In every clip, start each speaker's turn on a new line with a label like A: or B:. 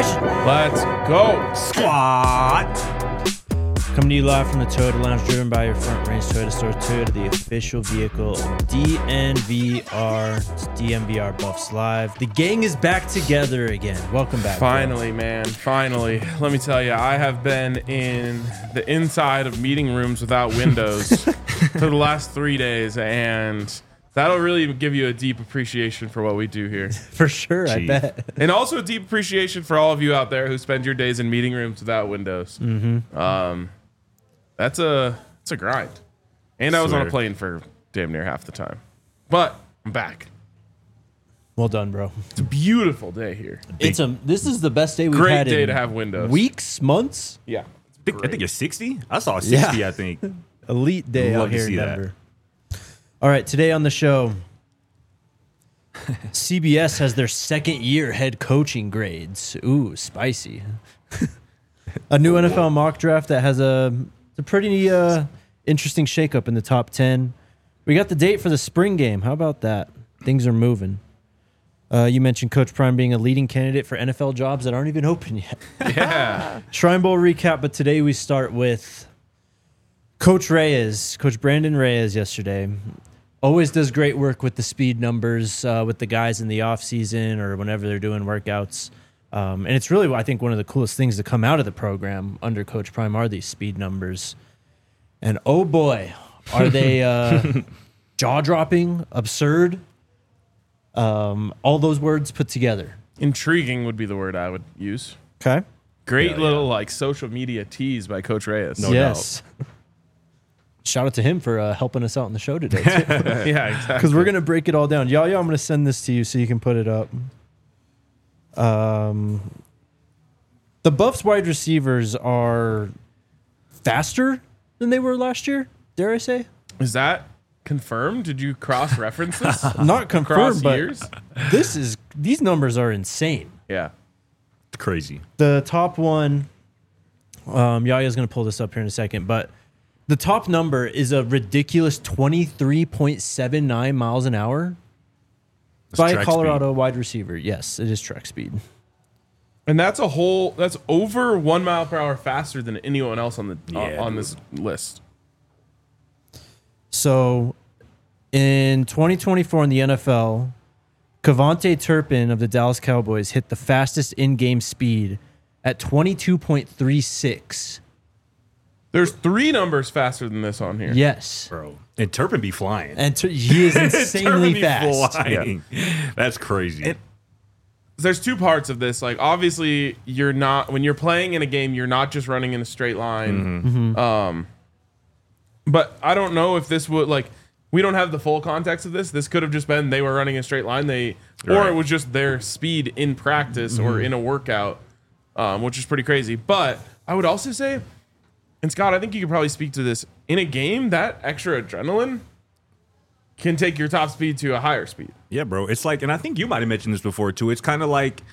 A: Nation.
B: Let's go.
A: Squad.
C: Coming to you live from the Toyota Lounge, driven by your Front Range Toyota Store. Toyota, the official vehicle of DNVR. It's DNVR Buffs Live. The gang is back together again. Welcome back.
B: Finally, man. Finally. Let me tell you, I have been in the inside of meeting rooms without windows for the last 3 days, and that'll really give you a deep appreciation for what we do here.
C: For sure, I bet.
B: And also a deep appreciation for all of you out there who spend your days in meeting rooms without windows. Mm-hmm. It's a grind. And I was on a plane for damn near half the time. But I'm back.
C: Well done, bro.
B: It's a beautiful day here.
C: This is the best day we've
B: Great
C: had
B: day
C: in
B: to have windows.
C: weeks, months.
B: Yeah.
A: I think it's 60. I saw 60,
C: Yeah.
A: I think.
C: Elite day
A: Love
C: out
A: to
C: here in
A: see that.
C: Denver. All right, today on the show, CBS has their second year head coaching grades. Ooh, spicy. A new NFL mock draft that has a pretty interesting shakeup in the top 10. We got the date for the spring game. How about that? Things are moving. You mentioned Coach Prime being a leading candidate for NFL jobs that aren't even open yet.
B: Yeah.
C: Shrine Bowl recap, but today we start with Coach Reyes, Coach Brandon Reyes yesterday. Always does great work with the speed numbers with the guys in the offseason or whenever they're doing workouts. And it's really, I think, one of the coolest things to come out of the program under Coach Prime are these speed numbers. And oh boy, are they jaw-dropping, absurd, all those words put together.
B: Intriguing would be the word I would use.
C: Okay.
B: Great little social media tease by Coach Reyes.
A: No
C: Yes. Shout out to him for helping us out in the show today, too.
B: Yeah, exactly.
C: Because we're going to break it all down. Yaya, I'm going to send this to you so you can put it up. The Buffs wide receivers are faster than they were last year, dare I say?
B: Is that confirmed? Did you cross-reference this?
C: Not
B: Across
C: confirmed, but
B: years?
C: these numbers are insane.
B: Yeah.
A: It's crazy.
C: The top one, Yaya's going to pull this up here in a second, but the top number is a ridiculous 23.79 miles an hour by a
A: track
C: Colorado wide receiver. Yes, it is track speed.
B: And that's over 1 mile per hour faster than anyone else on the on this list.
C: So in 2024 in the NFL, Kevontae Turpin of the Dallas Cowboys hit the fastest in-game speed at 22.36.
B: There's 3 numbers faster than this on here.
C: Yes.
A: Bro. And Turpin be flying.
C: And he is insanely fast.
A: Flying. That's crazy.
B: There's 2 parts of this. Like, obviously, when you're playing in a game, you're not just running in a straight line.
C: Mm-hmm.
B: But I don't know if this would, we don't have the full context of this. This could have just been they were running a straight line. Or it was just their speed in practice or in a workout, which is pretty crazy. But I would also say, and Scott, I think you could probably speak to this, in a game, that extra adrenaline can take your top speed to a higher speed.
A: Yeah, bro. It's like, and I think you might have mentioned this before too. It's kind of like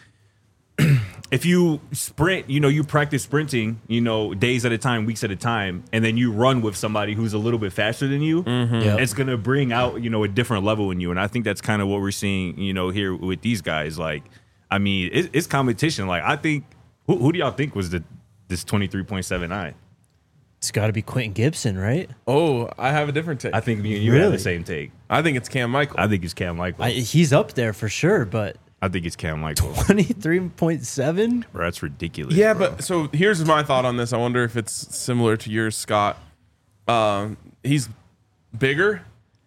A: if you sprint, you practice sprinting, days at a time, weeks at a time, and then you run with somebody who's a little bit faster than you.
C: Yep.
A: It's going to bring out, a different level in you. And I think that's kind of what we're seeing, here with these guys. Like, I mean, it's competition. Like, I think, who do y'all think was this 23.79?
C: It's got to be Quentin Gibson, right?
B: Oh, I have a different take.
A: I think me and you have
C: Really?
A: the same take.
B: I think it's Cam Michael.
A: I think it's Cam Michael.
C: He's up there for sure, but
A: I think it's Cam Michael.
C: 23.7?
A: Bro, that's ridiculous.
B: Yeah,
A: bro.
B: but so here's my thought on this. I wonder if it's similar to yours, Scott. He's bigger,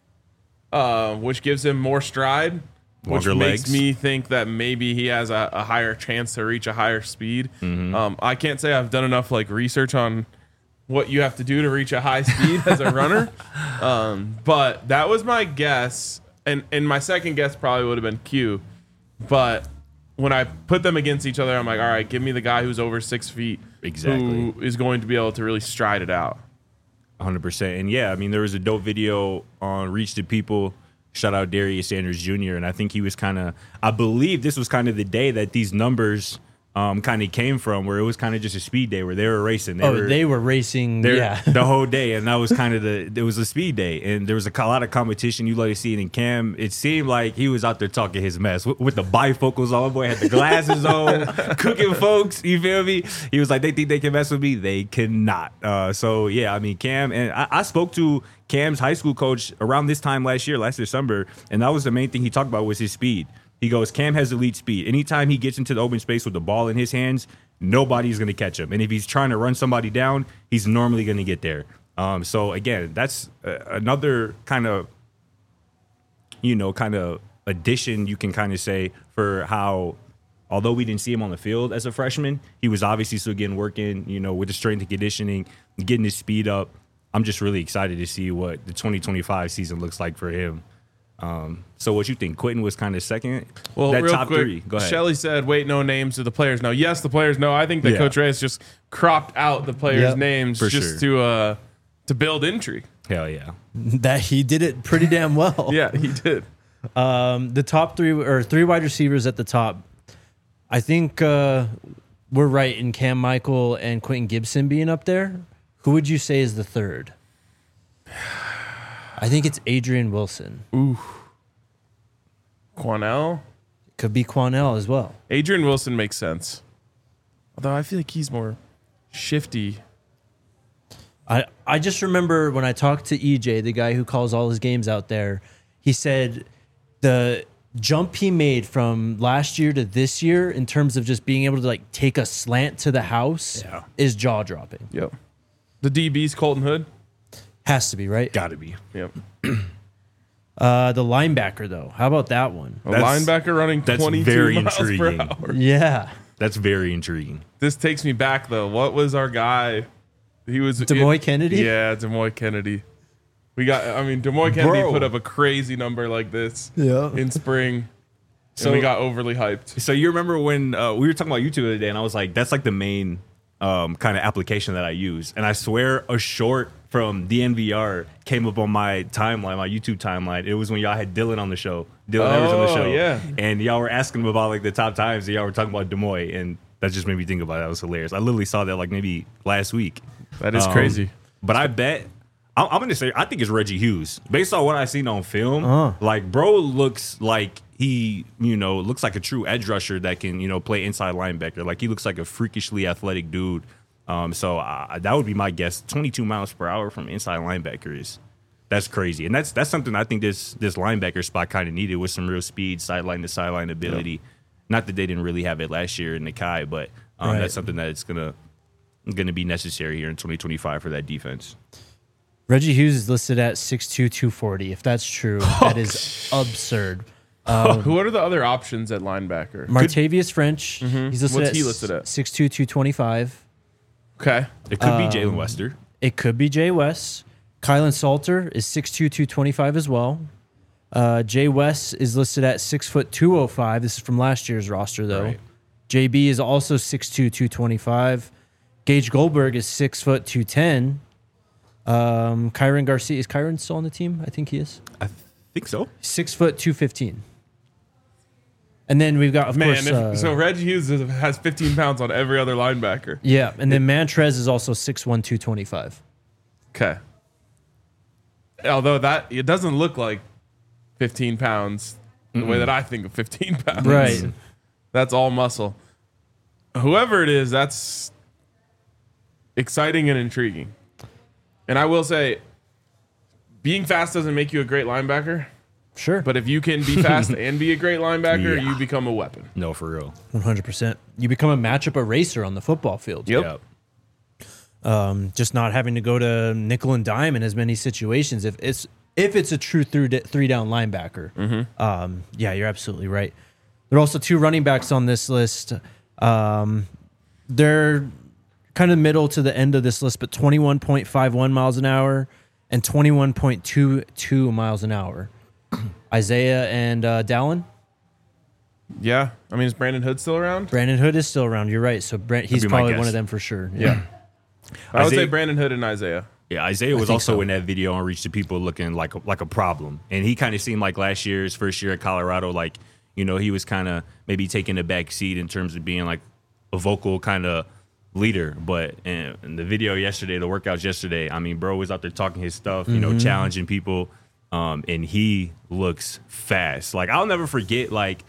B: which gives him more stride, which
A: Longer
B: makes
A: legs.
B: me think that maybe he has a higher chance to reach a higher speed. I can't say I've done enough research on what you have to do to reach a high speed as a runner, but that was my guess, and my second guess probably would have been Q, but when I put them against each other, I'm like, all right, give me the guy who's over 6 feet,
A: Exactly.
B: who is going to be able to really stride it out.
A: 100%. And yeah, I mean, there was a dope video on Reach the People. Shout out Darius Sanders Jr. And I think he was I believe this was kind of the day that these numbers kind of came from, where it was kind of just a speed day where they were racing.
C: They were racing, yeah.
A: the whole day, and that was kind of it was a speed day, and there was a lot of competition. You like to see it in Cam. It seemed like he was out there talking his mess with the bifocals on. Boy had the glasses on, cooking folks. You feel me? He was like, they think they can mess with me, they cannot. So yeah, I mean, Cam, and I spoke to Cam's high school coach around this time last December, and that was the main thing he talked about was his speed. He goes, Cam has elite speed. Anytime he gets into the open space with the ball in his hands, nobody's going to catch him. And if he's trying to run somebody down, he's normally going to get there. So, again, that's another kind of addition you can kind of say for how, although we didn't see him on the field as a freshman, he was obviously still getting work in, with the strength and conditioning, getting his speed up. I'm just really excited to see what the 2025 season looks like for him. So what you think? Quentin was kind of second?
B: Well,
A: that
B: real
A: top
B: quick,
A: three. Go ahead.
B: Shelley said, wait, no names. Do the players know? Yes, the players know. I think that Coach Reyes just cropped out the players' names
A: for
B: just
A: sure.
B: to build intrigue.
A: Hell yeah.
C: That he did it pretty damn well.
B: Yeah, he did.
C: The top three wide receivers at the top. I think we're right in Cam Michael and Quentin Gibson being up there. Who would you say is the third? I think it's Adrian Wilson.
B: Ooh. Quanell?
C: Could be Quanell as well.
B: Adrian Wilson makes sense. Although I feel like he's more shifty.
C: I just remember when I talked to EJ, the guy who calls all his games out there, he said the jump he made from last year to this year in terms of just being able to like take a slant to the house is jaw-dropping.
B: Yep. The DB's Colton Hood?
C: Has to be, right?
A: Got to be.
B: Yep.
C: The linebacker, though. How about that one?
B: A linebacker running 22
A: very
B: miles
A: intriguing.
B: per hour.
C: Yeah.
A: That's very intriguing.
B: This takes me back, though. What was our guy? He was
C: Demoy Kennedy?
B: Yeah, Demoy Kennedy. Demoy Kennedy put up a crazy number like this in spring. So we got overly hyped.
A: So you remember when we were talking about YouTube the other day, and I was like, that's like the main kind of application that I use. And I swear a short from DNVR came up on my timeline, my YouTube timeline. It was when y'all had Dylan on the show. Dylan Evers on the show.
B: Yeah.
A: And y'all were asking him about like the top times, and y'all were talking about Demoy, and that just made me think about it. That was hilarious. I literally saw that like maybe last week.
B: That is crazy.
A: But I bet I'm going to say I think it's Reggie Hughes. Based on what I've seen on film, like bro looks like he, looks like a true edge rusher that can, play inside linebacker. Like he looks like a freakishly athletic dude. So that would be my guess. 22 miles per hour from inside linebacker that's crazy. And that's something I think this linebacker spot kind of needed with some real speed, sideline to sideline ability. Yep. Not that they didn't really have it last year in Nakai, but that's something that it's gonna be necessary here in 2025 for that defense.
C: Reggie Hughes is listed at 6'2", 240. If that's true, that is absurd.
B: Who are the other options at linebacker?
C: Martavius French.
B: Mm-hmm.
C: He's listed
B: What's
C: at
B: he listed at?
C: 6'2", 225.
B: Okay.
A: It could be Jalen Wester.
C: It could be Jay West. Kylan Salter is 6'2", 225 as well. Jay West is listed at 6', 205. This is from last year's roster, though.
A: Right.
C: JB is also 6'2", 225. Gage Goldberg is 6', 210. Kyron Garcia, is Kyron still on the team? I think he is.
A: I think so.
C: 6', 215. And then we've got, of course...
B: so Reggie Hughes has 15 pounds on every other linebacker.
C: Yeah, and then Mantrez is also 6'1", 225.
B: Okay. Although it doesn't look like 15 pounds the way that I think of 15 pounds.
C: Right.
B: That's all muscle. Whoever it is, that's exciting and intriguing. And I will say, being fast doesn't make you a great linebacker.
C: Sure.
B: But if you can be fast and be a great linebacker, you become a weapon.
A: No, for real.
C: 100%. You become a matchup eraser on the football field.
B: Yep.
C: Just not having to go to nickel and dime in as many situations. If it's a true three down linebacker. Yeah, you're absolutely right. There are also two running backs on this list. They're kind of middle to the end of this list, but 21.51 miles an hour and 21.22 miles an hour. Isaiah and Dallin.
B: Yeah. I mean, is Brandon Hood still around?
C: Brandon Hood is still around. You're right. So he's probably one of them for sure.
B: Yeah. I would say Brandon Hood and Isaiah.
A: Yeah, Isaiah was also in that video on Reach the People looking like a problem. And he kind of seemed like first year at Colorado, like, he was kind of maybe taking a back seat in terms of being like a vocal kind of leader. But in the video yesterday, the workouts yesterday, I mean, bro was out there talking his stuff, you know, challenging people. And he looks fast. Like, I'll never forget, like,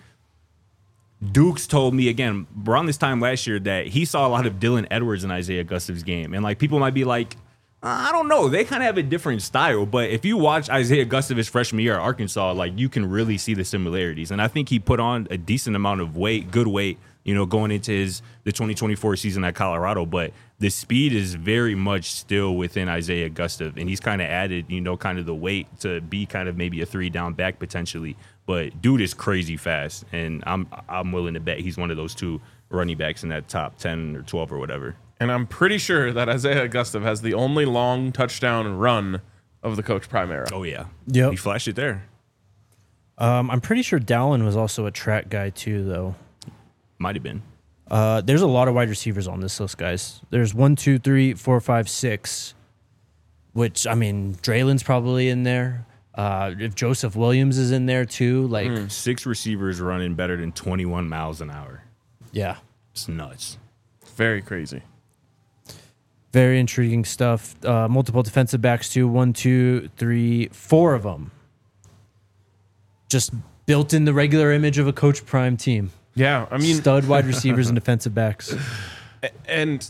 A: Dukes told me again around this time last year that he saw a lot of Dylan Edwards in Isaiah Gustav's game. And like, people might be like, I don't know, they kind of have a different style. But if you watch Isaiah Gustav his freshman year at Arkansas, like, you can really see the similarities. And I think he put on a decent amount of weight, good weight, you know, going into the 2024 season at Colorado. But the speed is very much still within Isaiah Gustav. And he's kind of added, you know, kind of the weight to be kind of maybe a 3-down back potentially. But dude is crazy fast. And I'm willing to bet he's one of those 2 running backs in that top 10 or 12 or whatever.
B: And I'm pretty sure that Isaiah Gustav has the only long touchdown run of the Coach Prime era.
A: Oh, yeah.
C: Yep.
A: He flashed it there.
C: I'm pretty sure Dallin was also a track guy too, though.
A: Might have been.
C: There's a lot of wide receivers on this list, guys. There's 1, 2, 3, 4, 5, 6. Which, I mean, Draylen's probably in there. If Joseph Williams is in there too, like
A: 6 receivers running better than 21 miles an hour.
C: yeah,
A: It's nuts.
B: Very crazy.
C: very intriguing stuff. Multiple defensive backs too. 1, 2, 3, 4 of them. Just built in the regular image of a Coach Prime team.
B: Yeah, I mean,
C: Stud wide receivers and defensive backs.
B: and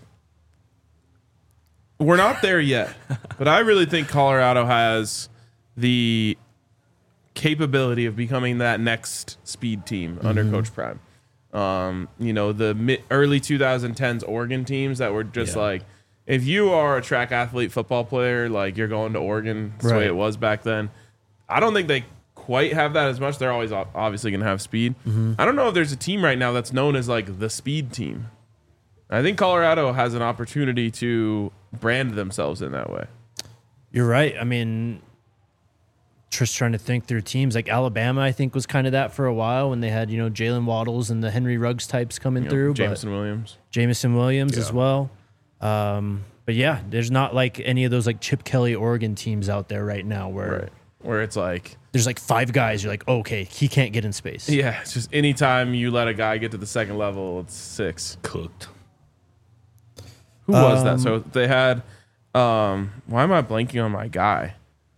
B: we're not there yet, but I really think Colorado has the capability of becoming that next speed team under Coach Prime. You know, the early 2010s Oregon teams that were just like, if you are a track athlete football player, like, you're going to Oregon. That's the way it was back then. I don't think they quite have that as much. They're always obviously going to have speed. I don't know if there's a team right now that's known as like the speed team. I think Colorado has an opportunity to brand themselves in that way.
C: You're right. I mean, just trying to think through teams like Alabama, I think was kind of that for a while when they had, you know, Jalen Waddles and the Henry Ruggs types coming through.
B: Jameson Williams.
C: Jameson Williams as well. But yeah, there's not like any of those like Chip Kelly Oregon teams out there right now where
B: it's like
C: there's like 5 guys. You're like, okay, he can't get in space.
B: yeah, it's just anytime you let a guy get to the second level, it's 6.
A: Cooked.
B: Who was that? So they had why am I blanking on my guy?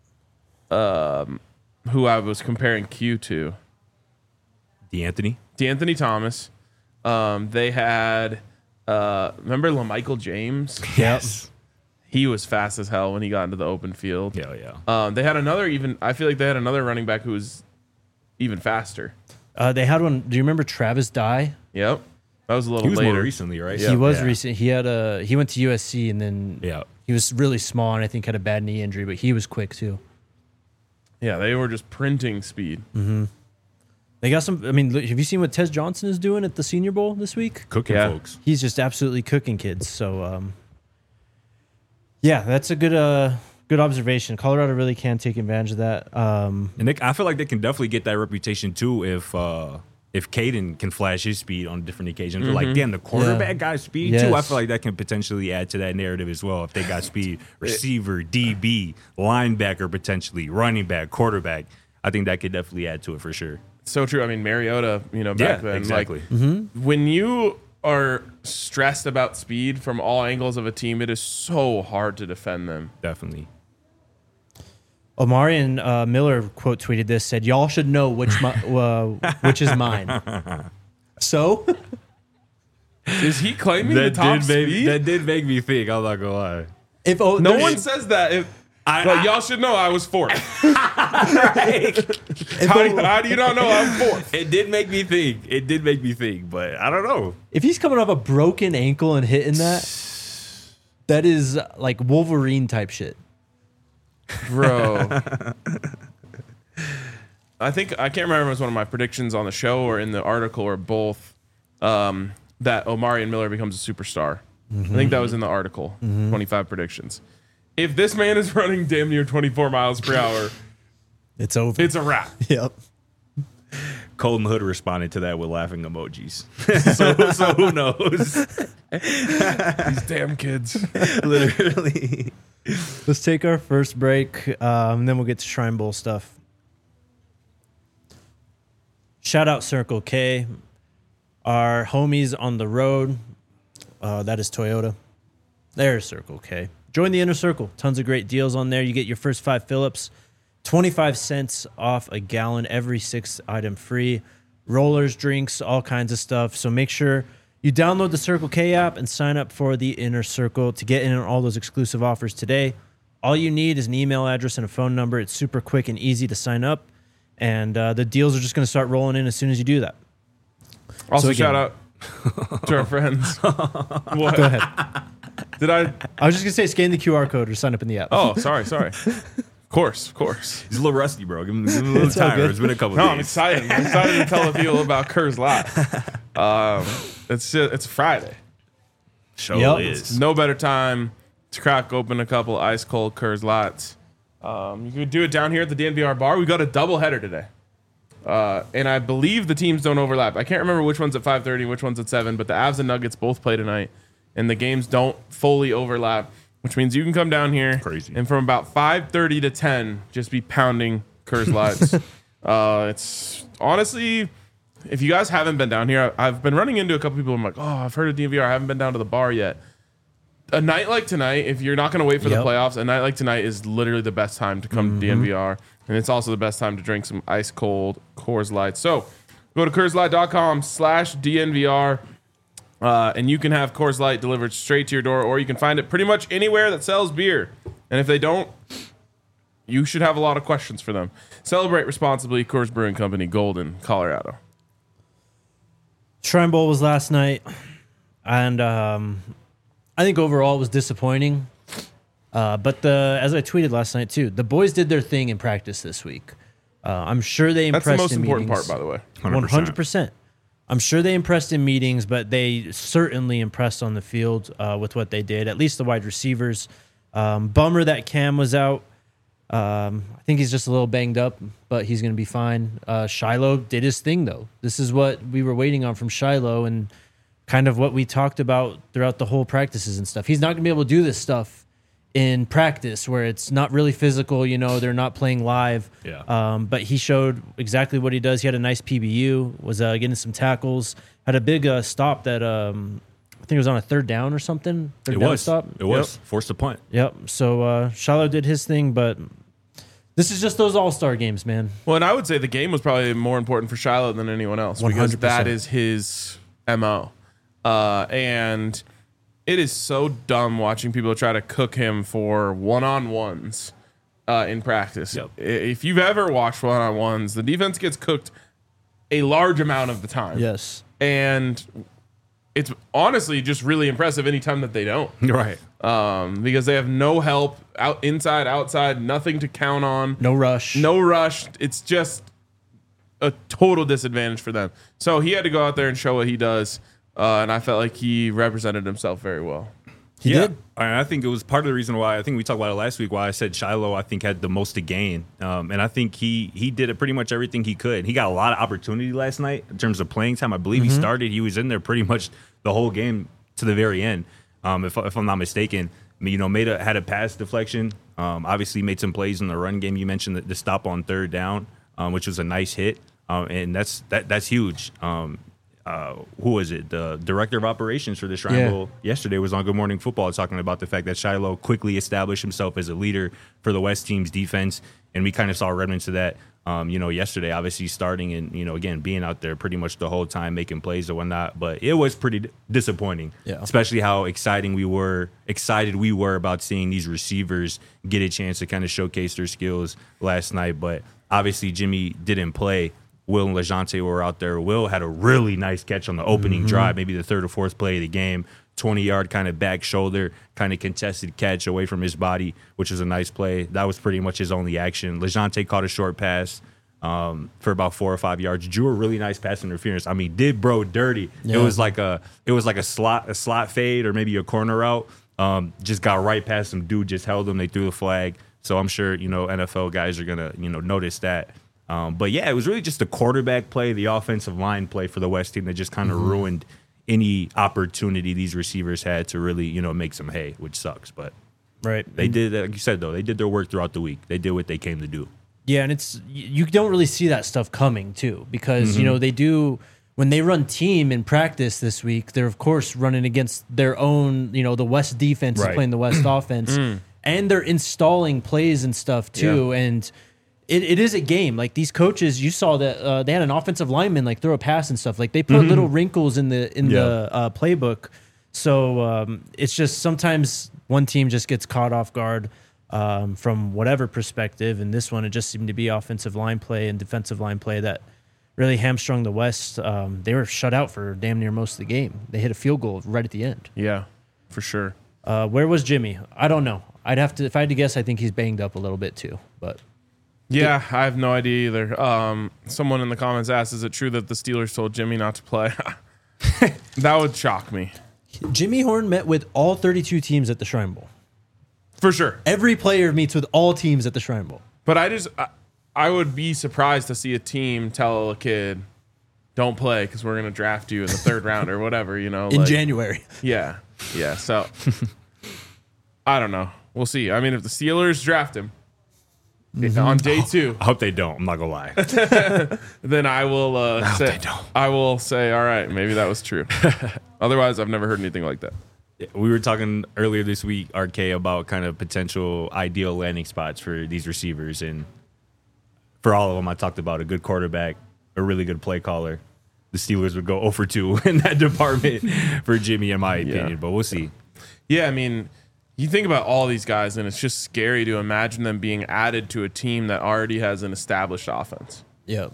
B: Who I was comparing Q to.
A: DeAnthony
B: Thomas. They had remember LaMichael James?
A: Yes.
B: He was fast as hell when he got into the open field.
A: Yeah.
B: They had I feel like they had another running back who was even faster.
C: They had one. Do you remember Travis Dye?
B: Yep. That was a little
A: He was
B: later.
A: more recently, right?
C: He was recent. He went to USC and then he was really small and I think had a bad knee injury, but he was quick too.
B: Yeah, they were just printing speed.
C: They got some. I mean, have you seen what Tez Johnson is doing at the Senior Bowl this week?
A: Cooking folks.
C: He's just absolutely cooking kids. So, yeah, that's a good observation. Colorado really can take advantage of that.
A: And I feel like they can definitely get that reputation too if Caden can flash his speed on different occasions. Like, damn, the quarterback got speed too. I feel like that can potentially add to that narrative as well. If they got speed, receiver, DB, linebacker, potentially running back, quarterback, I think that could definitely add to it for sure.
B: So true. I mean, Mariota, back then,
A: exactly.
B: Like, when you are stressed about speed from all angles of a team, it is so hard to defend them.
A: Definitely.
C: Omarion Miller quote tweeted this, said, "Y'all should know which is mine." So,
B: is he claiming the top speed?
A: That did make me think. I'm not gonna lie.
C: if
B: no one says that, y'all should know I was 4th. How do you not know I'm 4th?
A: It did make me think. But I don't know.
C: If he's coming off a broken ankle and hitting that is like Wolverine type shit.
B: Bro. I can't remember if it was one of my predictions on the show or in the article or both, that Omarion Miller becomes a superstar. I think that was in the article, 25 predictions. If this man is running damn near 24 miles per hour,
C: it's over.
B: It's a wrap.
C: Yep.
A: Colton Hood responded to that with laughing emojis. so who knows?
B: These damn kids.
A: Literally.
C: Let's take our first break, and then we'll get to Shrine Bowl stuff. Shout out Circle K, our homies on the road. That is Toyota. There's Circle K. Join the Inner Circle. Tons of great deals on there. You get your first 5 fill-ups, 25 cents off a gallon, every 6th item free. Rollers, drinks, all kinds of stuff. So make sure you download the Circle K app and sign up for the Inner Circle to get in on all those exclusive offers today. All you need is an email address and a phone number. It's super quick and easy to sign up. And the deals are just going to start rolling in as soon as you do that.
B: Also,
C: So again-
B: shout out to our friends. What?
C: Go ahead.
B: Did I?
C: I was just going to say scan the QR code or sign up in the app.
B: Oh, sorry. Of course.
A: He's a little rusty, bro. Give him a little
C: It's all
A: time.
C: good.
A: It's been a couple
B: No, I'm
A: days.
B: excited. I'm excited to tell the people about Kerr's Lot. It's Friday.
A: Show
C: Yep.
A: is.
B: No better time to crack open a couple ice cold Kerr's Lots. You could do it down here at the DNVR bar. We got a double header today. And I believe the teams don't overlap. I can't remember which one's at 5:30 and which one's at 7, but the Avs and Nuggets both play tonight, and the games don't fully overlap, which means you can come down here
A: Crazy.
B: and from about 5:30 to 10, just be pounding Kerr's Lots. It's honestly, if you guys haven't been down here, I've been running into a couple people. I'm like, oh, I've heard of DNVR. I haven't been down to the bar yet. A night like tonight, if you're not going to wait for the
C: Yep.
B: playoffs, a night like tonight is literally the best time to come to DNVR. And it's also the best time to drink some ice cold Coors Light. So go to CoorsLight.com/DNVR and you can have Coors Light delivered straight to your door, or you can find it pretty much anywhere that sells beer. And if they don't, you should have a lot of questions for them. Celebrate responsibly. Coors Brewing Company, Golden, Colorado.
C: Shrine Bowl was last night, and I think overall it was disappointing. But as I tweeted last night too, the boys did their thing in practice this week. I'm sure they impressed.
B: That's the most
C: in
B: important
C: meetings.
B: part, by the way.
C: 100%. I'm sure they impressed in meetings, but they certainly impressed on the field with what they did. At least the wide receivers. Bummer that Cam was out. I think he's just a little banged up, but he's going to be fine. Shiloh did his thing, though. This is what we were waiting on from Shiloh and kind of what we talked about throughout the whole practices and stuff. He's not going to be able to do this stuff in practice where it's not really physical. You know, they're not playing live.
A: Yeah.
C: But he showed exactly what he does. He had a nice PBU, was getting some tackles, had a big stop that I think it was on a 3rd down or something. Third
A: It
C: down
A: was.
C: stop.
A: It was. Forced a punt.
C: Yep. So Shiloh did his thing, but this is just those all-star games, man.
B: Well, and I would say the game was probably more important for Shiloh than anyone else because
C: 100%.
B: that is his MO. And it is so dumb watching people try to cook him for one-on-ones in practice.
A: Yep.
B: If you've ever watched one-on-ones, the defense gets cooked a large amount of the time.
C: Yes.
B: And it's honestly just really impressive anytime that they don't.
A: Right.
B: Because they have no help, inside, outside, nothing to count on.
C: No rush.
B: No rush. It's just a total disadvantage for them. So he had to go out there and show what he does. And I felt like he represented himself very well.
C: He did.
A: And I think it was part of the reason why I think we talked about it last week. Why I said Shiloh, I think, had the most to gain, and I think he did it pretty much everything he could. He got a lot of opportunity last night in terms of playing time. I believe he started. He was in there pretty much the whole game to the very end, if I'm not mistaken. I mean, you know, had a pass deflection. Obviously, made some plays in the run game. You mentioned the stop on 3rd down, which was a nice hit, and that's huge. Who was it? The director of operations for the Shrine Bowl yesterday was on Good Morning Football talking about the fact that Shiloh quickly established himself as a leader for the West team's defense. And we kind of saw remnants of that, yesterday, obviously starting and, again, being out there pretty much the whole time, making plays and whatnot. But it was pretty disappointing, especially how excited we were about seeing these receivers get a chance to kind of showcase their skills last night. But obviously Jimmy didn't play. Will and LeJounte were out there. Will had a really nice catch on the opening drive, maybe the 3rd or 4th play of the game. 20-yard kind of back shoulder, kind of contested catch away from his body, which was a nice play. That was pretty much his only action. LeJounte caught a short pass for about 4 or 5 yards. Drew a really nice pass interference. I mean, did bro dirty. Yeah. It was like a slot fade or maybe a corner route. Just got right past him. Dude just held him. They threw the flag. So I'm sure NFL guys are gonna notice that. But yeah, it was really just the quarterback play, the offensive line play for the West team that just kind of ruined any opportunity these receivers had to really, make some hay, which sucks. But they did, like you said, though, they did their work throughout the week. They did what they came to do.
C: Yeah, and you don't really see that stuff coming too, because they do when they run team in practice this week, they're of course running against their own, the West defense is
A: Right.
C: playing the West offense, and they're installing plays and stuff too.
B: Yeah.
C: And it is a game. Like these coaches, you saw that they had an offensive lineman like throw a pass and stuff. Like they put little wrinkles in the playbook. So it's just sometimes one team just gets caught off guard from whatever perspective. And this one, it just seemed to be offensive line play and defensive line play that really hamstrung the West. They were shut out for damn near most of the game. They hit a field goal right at the end.
B: Yeah, for sure.
C: Where was Jimmy? I don't know. If I had to guess, I think he's banged up a little bit too. But
B: Yeah, I have no idea either. Someone in the comments asked, is it true that the Steelers told Jimmy not to play? That would shock me.
C: Jimmy Horn met with all 32 teams at the Shrine Bowl.
B: For sure.
C: Every player meets with all teams at the Shrine Bowl.
B: But I would be surprised to see a team tell a kid, don't play because we're going to draft you in the third round or whatever,
C: In January.
B: Yeah. Yeah. So I don't know. We'll see. I mean, if the Steelers draft him on day 2,
A: I hope they don't. I'm not gonna lie.
B: then I will say,
A: they don't.
B: I will say, all right, maybe that was true. Otherwise, I've never heard anything like that.
A: We were talking earlier this week, RK, about kind of potential ideal landing spots for these receivers, and for all of them, I talked about a good quarterback, a really good play caller. The Steelers would go 0 for 2 in that department for Jimmy, in my opinion. But we'll see.
B: Yeah, I mean, you think about all these guys, and it's just scary to imagine them being added to a team that already has an established offense.
C: Yep.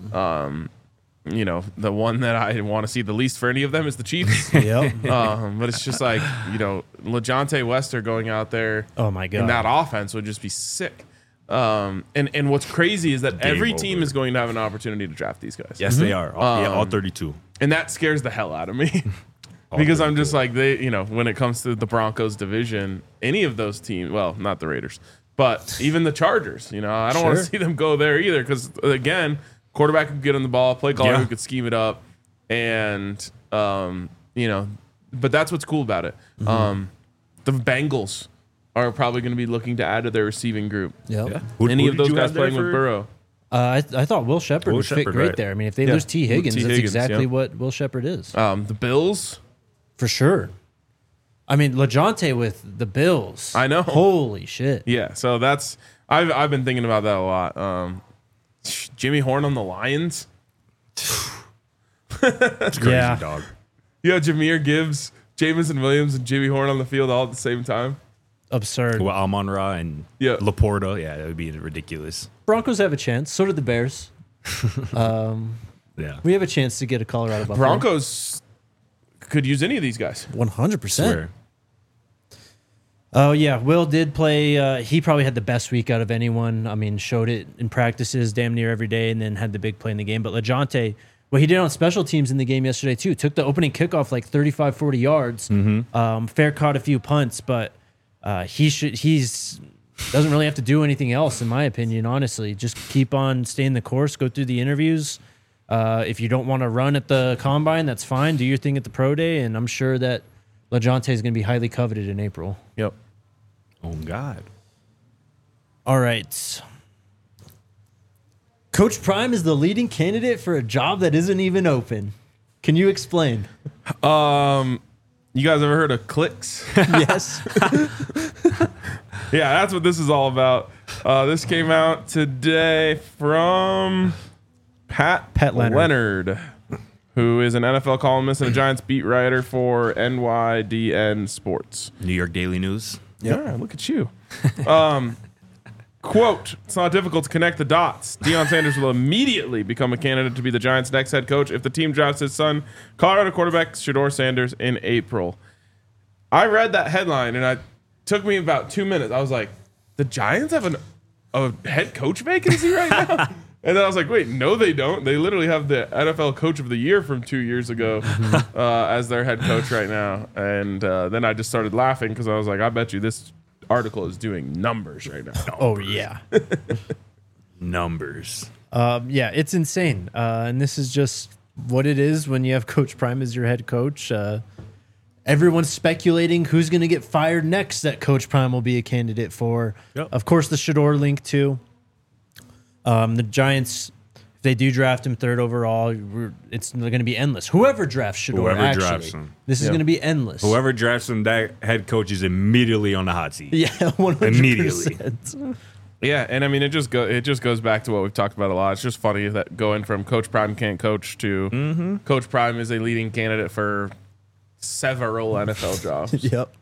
B: The one that I want to see the least for any of them is the Chiefs.
C: Yep.
B: But it's just like, LeJontay Wester going out there
C: Oh my God.
B: in that offense would just be sick. And what's crazy is that every team
A: over.
B: is going to have an opportunity to draft these guys.
A: Yes, they are. All 32.
B: And that scares the hell out of me. Because I'm just like, when it comes to the Broncos division, any of those teams, well, not the Raiders, but even the Chargers, I don't want to
C: Sure.
B: see them go there either. Because, again, quarterback could get on the ball, play caller who could scheme it up. And, but that's what's cool about it. The Bengals are probably going to be looking to add to their receiving group.
C: Yep.
A: Yeah.
B: Any
A: Who
B: of
A: did
B: those
A: you
B: guys
A: have there
B: playing with
A: for-
B: Burrow.
C: I thought Will Shepard
A: Will
C: would fit
A: Shepard,
C: great
A: right.
C: there. I mean, if they
B: Yeah.
C: lose T. Higgins,
B: T.
C: that's
B: Higgins,
C: exactly
B: yeah.
C: what Will Shepard is.
B: The Bills.
C: For sure. I mean, LeJontay with the Bills.
B: I know.
C: Holy shit.
B: Yeah, so that's I've been thinking about that a lot. Jimmy Horn on the Lions.
A: It's crazy,
C: Yeah.
A: dog.
B: You have Jahmyr Gibbs, Jamison Williams, and Jimmy Horn on the field all at the same time.
C: Absurd.
A: Well, Amon-Ra and
B: Yeah.
A: Laporta. Yeah, that would be ridiculous.
C: Broncos have a chance. So do the Bears.
A: Yeah.
C: We have a chance to get a Colorado Buffalo.
B: Broncos could use any of these guys.
C: 100%.
A: Swear.
C: Oh, yeah. Will did play. He probably had the best week out of anyone. I mean, showed it in practices damn near every day and then had the big play in the game. But LeJontay, what he did on special teams in the game yesterday, too, took the opening kickoff like 35, 40 yards. Fair caught a few punts, but he's doesn't really have to do anything else, in my opinion, honestly. Just keep on staying the course, go through the interviews. If you don't want to run at the combine, that's fine. Do your thing at the pro day, and I'm sure that LeJontay is going to be highly coveted in April.
B: Yep.
A: Oh, God.
C: All right. Coach Prime is the leading candidate for a job that isn't even open. Can you explain?
B: You guys ever heard of Clicks?
C: Yes.
B: Yeah, that's what this is all about. This came out today from Pat
C: Leonard.
B: who is an NFL columnist and a Giants beat writer for NYDN Sports.
A: New York Daily News.
B: Yeah, look at you. Quote, it's not difficult to connect the dots. Deion Sanders will immediately become a candidate to be the Giants' next head coach if the team drafts his son, Colorado quarterback Shedeur Sanders, in April. I read that headline, and it took me about 2 minutes. I was like, the Giants have a head coach vacancy right now? And then I was like, wait, no, they don't. They literally have the NFL Coach of the Year from 2 years ago as their head coach right now. And then I just started laughing because I was like, I bet you this article is doing numbers right now.
C: Oh, yeah.
A: Numbers.
C: Yeah, it's insane. And this is just what it is when you have Coach Prime as your head coach. Everyone's speculating who's going to get fired next that Coach Prime will be a candidate for.
A: Yep.
C: Of course, the Shedeur link, too. The Giants, If they do draft him third overall, it's going to be endless. Whoever drafts Shedeur,
A: Whoever drafts him.
C: This is going to be endless.
A: Whoever drafts him, that head coach is immediately on the hot seat.
C: Yeah, 100%.
A: Immediately.
B: Yeah, and I mean it just goes back to what we've talked about a lot. It's just funny that going from Coach Prime can't coach to Coach Prime is a leading candidate for several NFL jobs.
C: Yep.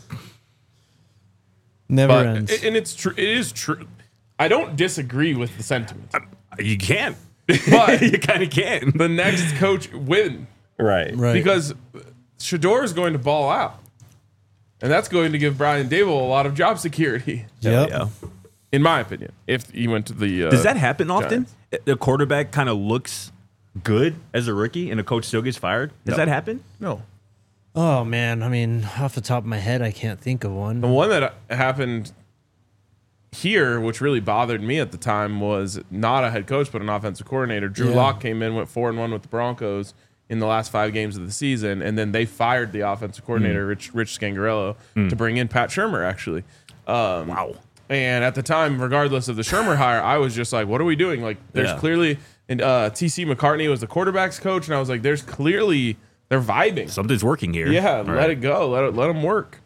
C: Never
B: But
C: ends.
B: and it's true. It is true. I don't disagree with the sentiment.
A: You can't.
B: But
A: You kind of can't.
B: the next coach win
A: Right.
C: Right.
B: because Shedeur is going to ball out, and that's going to give Brian Dable a lot of job security,
C: Yep.
A: Yeah.
B: in my opinion. If he went to the
A: Does that happen often?
B: Giants.
A: The quarterback kind of looks good as a rookie and a coach still gets fired? Does
B: No.
A: that happen?
B: No.
C: Oh, man. I mean, off the top of my head, I can't think of one.
B: The one that happened here, which really bothered me at the time, was not a head coach but an offensive coordinator. Drew
C: Yeah.
B: Lock came in, went 4-1 with the Broncos in the last 5 games of the season, and then they fired the offensive coordinator, Rich Scangarello, to bring in Pat Shurmur. Actually,
A: Wow.
B: and at the time, regardless of the Shurmur hire, I was just like, "What are we doing?" Like, there's
A: Yeah.
B: clearly, and TC McCartney was the quarterback's coach, and I was like, "There's clearly they're vibing."
A: Something's working here.
B: Yeah,
A: All
B: let
A: right.
B: it go. Let them work.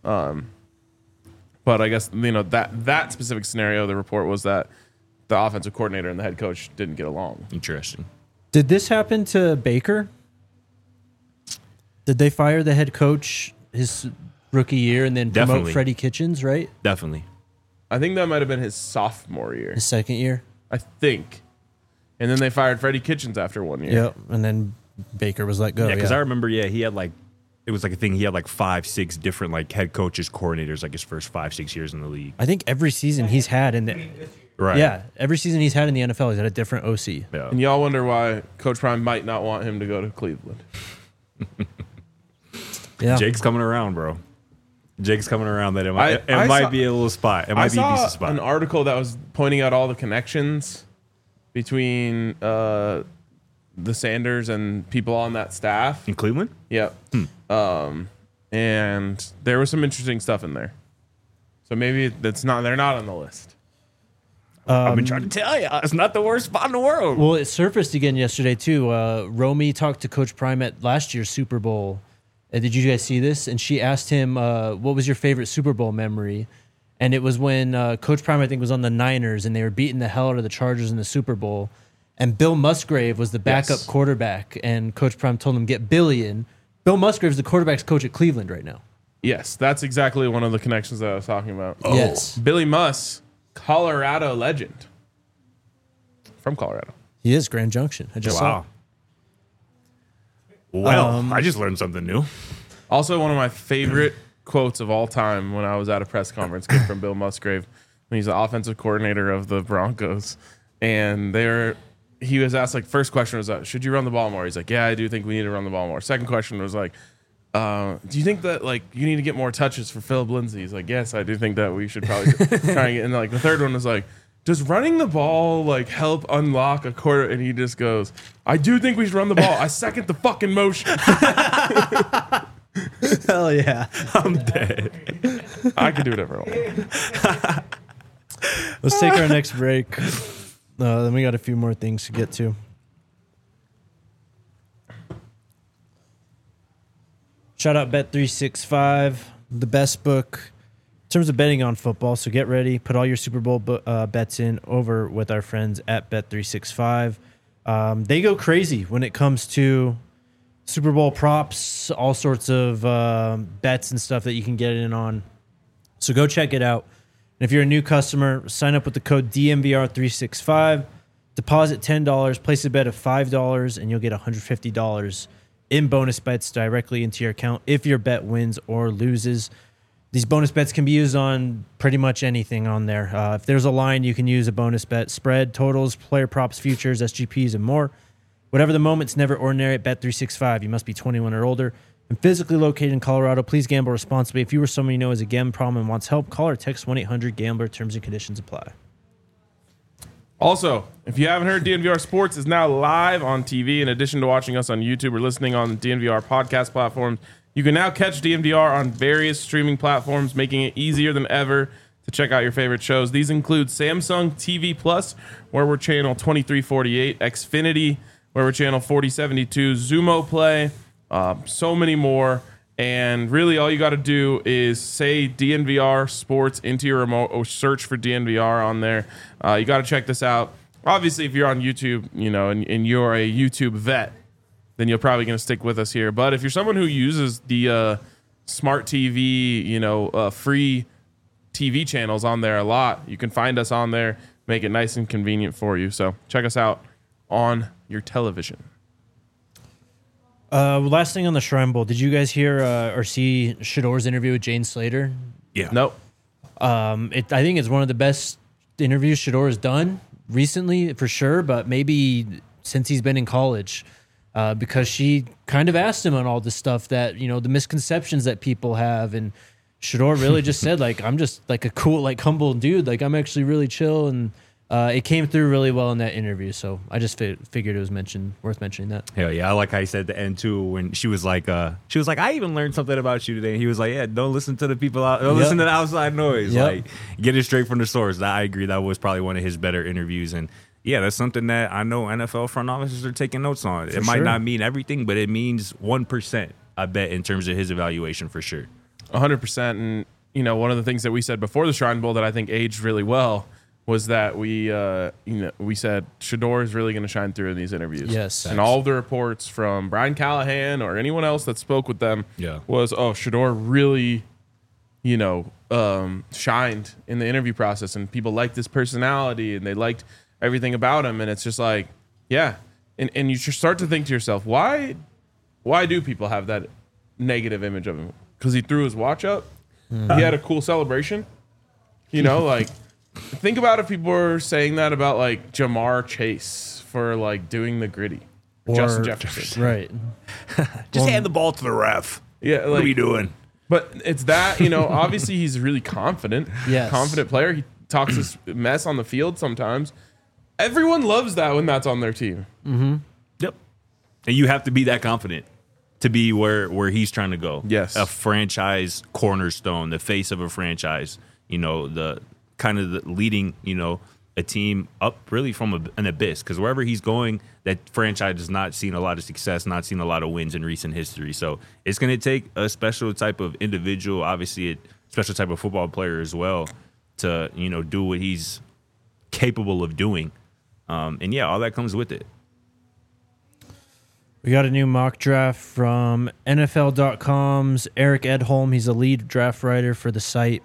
B: But I guess that specific scenario, the report was that the offensive coordinator and the head coach didn't get along.
A: Interesting.
C: Did this happen to Baker? Did they fire the head coach his rookie year and then promote
A: Definitely.
C: Freddie Kitchens, right?
A: Definitely.
B: I think that might have been his sophomore year.
C: His second year?
B: I think, and then they fired Freddie Kitchens after 1 year.
C: Yep. And then Baker was let go.
A: Yeah, because I remember, he had it was like a thing. He had 5-6 different head coaches, coordinators, his first 5-6 years in the league.
C: I think every season he's had
A: Right.
C: every season he's had in the NFL, he's had a different OC.
A: Yeah.
B: And y'all wonder why Coach Prime might not want him to go to Cleveland.
C: Yeah.
A: Jake's coming around, bro. Jake's coming around. That it
B: I
A: might
B: saw-
A: be a little spot. It
B: I
A: might be a
B: saw
A: decent spot.
B: an article that was pointing out all the connections between the Sanders and people on that staff.
A: In Cleveland?
B: Yep. And there was some interesting stuff in there. So maybe they're not on the list.
A: I've been trying to tell you. It's not the worst spot in the world.
C: Well, it surfaced again yesterday too. Romy talked to Coach Prime at last year's Super Bowl. Did you guys see this? And she asked him, "What was your favorite Super Bowl memory?" And it was when Coach Prime, I think, was on the Niners and they were beating the hell out of the Chargers in the Super Bowl. And Bill Musgrave was the backup
B: Yes.
C: quarterback, and Coach Prime told him get Billy in. Bill Musgrave's the quarterback's coach at Cleveland right now.
B: Yes, that's exactly one of the connections that I was talking about.
C: Yes,
B: Billy Muss, Colorado legend. From Colorado.
C: he is Grand Junction. I just saw.
A: Wow. Well, I just learned something new.
B: Also, one of my favorite quotes of all time when I was at a press conference came from Bill Musgrave when he's the offensive coordinator of the Broncos. And he was asked, first question was, should you run the ball more? He's like, yeah, I do think we need to run the ball more. Second question was do you think that you need to get more touches for Philip Lindsay? He's like, yes, I do think that we should probably try and get. And the third one was does running the ball help unlock a quarter? And he just goes, I do think we should run the ball. I second the fucking motion.
C: Hell yeah!
A: I'm dead.
B: I can do whatever I want.
C: Let's take our next break. Then we got a few more things to get to. Shout out Bet365, the best book in terms of betting on football. So get ready. Put all your Super Bowl bets in over with our friends at Bet365. They go crazy when it comes to Super Bowl props, all sorts of bets and stuff that you can get in on. So go check it out. And if you're a new customer, sign up with the code DMVR365. Deposit $10, place a bet of $5, and you'll get $150 in bonus bets directly into your account if your bet wins or loses. These bonus bets can be used on pretty much anything on there. If there's a line, you can use a bonus bet. Spread, totals, player props, futures, SGPs, and more. Whatever the moment, it's never ordinary at Bet365. You must be 21 or older and physically located in Colorado. Please gamble responsibly. If you or someone you know has a gambling problem and wants help, call or text 1-800-GAMBLER. Terms and conditions apply.
B: Also, if you haven't heard, DNVR Sports is now live on TV. In addition to watching us on YouTube or listening on the DNVR podcast platforms, you can now catch DNVR on various streaming platforms, making it easier than ever to check out your favorite shows. These include Samsung TV Plus, where we're channel 2348, Xfinity, where we're channel 4072, Zumo Play, so many more. And really all you got to do is say DNVR Sports into your remote or search for DNVR on there. You got to check this out. Obviously, if you're on YouTube, and you're a YouTube vet, then you're probably going to stick with us here. But if you're someone who uses the smart TV, free TV channels on there a lot, you can find us on there, make it nice and convenient for you. So check us out on your television.
C: Last thing on the Shrine Bowl. Did you guys hear or see Shador's interview with Jane Slater?
A: Yeah.
B: Nope.
C: I think it's one of the best interviews Shador has done recently, for sure, but maybe since he's been in college, because she kind of asked him on all this stuff that, the misconceptions that people have. And Shador really just said, like, I'm just like a cool, like humble dude. Like, I'm actually really chill. And it came through really well in that interview. So I just figured it was worth mentioning that.
A: Hell yeah. I like how he said at the end too, when she was like, I even learned something about you today. And he was like, yeah, don't listen to the people out, don't listen to the outside noise.
C: Yep.
A: Like, get it straight from the source. I agree. That was probably one of his better interviews. And yeah, that's something that I know NFL front offices are taking notes on. It might not mean everything, but it means 1%, I bet, in terms of his evaluation for sure.
B: 100%. And, one of the things that we said before the Shrine Bowl that I think aged really well was that we said Shador is really going to shine through in these interviews.
C: Yes.
B: And all of the reports from Brian Callahan or anyone else that spoke with them was, Shador really, shined in the interview process, and people liked his personality and they liked everything about him. And it's just like, yeah. And you just start to think to yourself, why do people have that negative image of him? Because he threw his watch up. Mm-hmm. He had a cool celebration. Like, think about if people were saying that about like Jamar Chase for like doing the gritty. Or Justin Jefferson.
C: Right.
A: Just hand the ball to the ref.
B: Yeah. Like,
A: what are you doing?
B: But it's that, obviously he's really confident.
C: Yes.
B: Confident player. He talks this mess on the field sometimes. Everyone loves that when that's on their team.
C: Mm-hmm.
A: Yep. And you have to be that confident to be where he's trying to go.
B: Yes.
A: A franchise cornerstone, the face of a franchise, the kind of the leading, a team up really from an abyss. Because wherever he's going, that franchise has not seen a lot of success, not seen a lot of wins in recent history. So it's going to take a special type of individual, obviously a special type of football player as well, to, do what he's capable of doing. And yeah, all that comes with it.
C: We got a new mock draft from NFL.com's Eric Edholm. He's a lead draft writer for the site.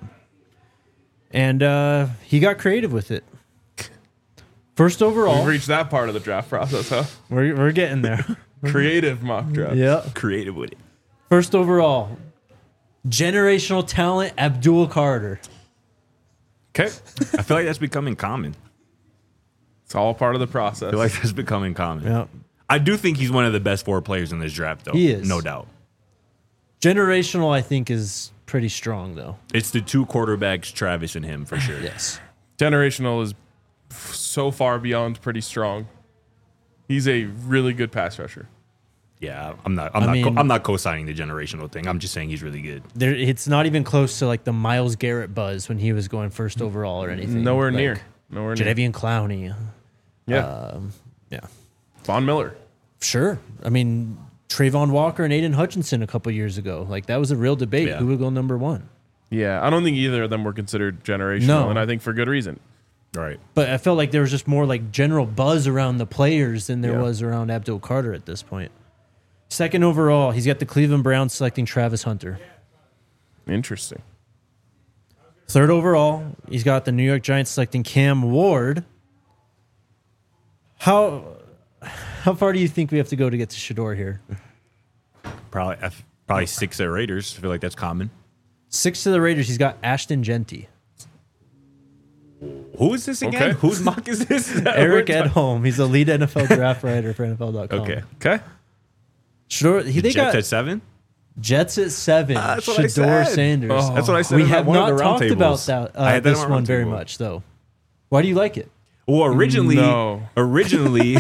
C: And he got creative with it. First overall.
B: We've reached that part of the draft process, huh?
C: We're getting there.
B: Creative mock draft.
C: Yeah.
A: Creative with it.
C: First overall, generational talent, Abdul Carter.
B: Okay.
A: I feel like that's becoming common.
B: It's all part of the process.
A: I feel like that's becoming common.
C: Yeah.
A: I do think he's one of the best 4 players in this draft, though.
C: He is.
A: No doubt.
C: Generational, I think, is pretty strong, though.
A: It's the 2 quarterbacks, Travis and him, for sure.
C: Yes.
B: Generational is so far beyond pretty strong. He's a really good pass rusher.
A: Yeah, I'm not co-signing the generational thing. I'm just saying he's really good.
C: It's not even close to like the Myles Garrett buzz when he was going first overall or anything.
B: Nowhere
C: like,
B: near.
C: Jadeveon Clowney.
B: Yeah.
C: Yeah.
B: Von Miller.
C: Sure. I mean, Trayvon Walker and Aiden Hutchinson a couple years ago. Like, that was a real debate.
A: Yeah.
C: Who would go number 1?
B: Yeah, I don't think either of them were considered generational,
C: No.
B: and I think for good reason.
A: Right.
C: But I felt like there was just more like general buzz around the players than there
B: Yeah.
C: was around Abdul Carter at this point. Second overall, he's got the Cleveland Browns selecting Travis Hunter.
B: Interesting.
C: Third overall, he's got the New York Giants selecting Cam Ward. How far do you think we have to go to get to Shador here?
A: Probably 6 at Raiders. I feel like that's common.
C: 6 to the Raiders, he's got Ashton Genty.
A: Who is this again?
B: Okay.
A: Whose mock is this?
C: Eric Edholm. He's a lead NFL draft writer for NFL.com.
A: Okay.
C: Shador, they
A: Jets
C: got
A: at 7?
C: Jets at 7.
A: That's what I
C: Shador
A: said.
C: Sanders.
B: Oh.
A: That's what I said.
C: We
A: in
C: have
A: one of
C: not
A: the
C: talked about
A: roundtables.
C: that
A: I had that
C: this
A: on
C: one
A: roundtable.
C: very much, though. Why do you like it?
A: Well, originally,
B: No.
A: originally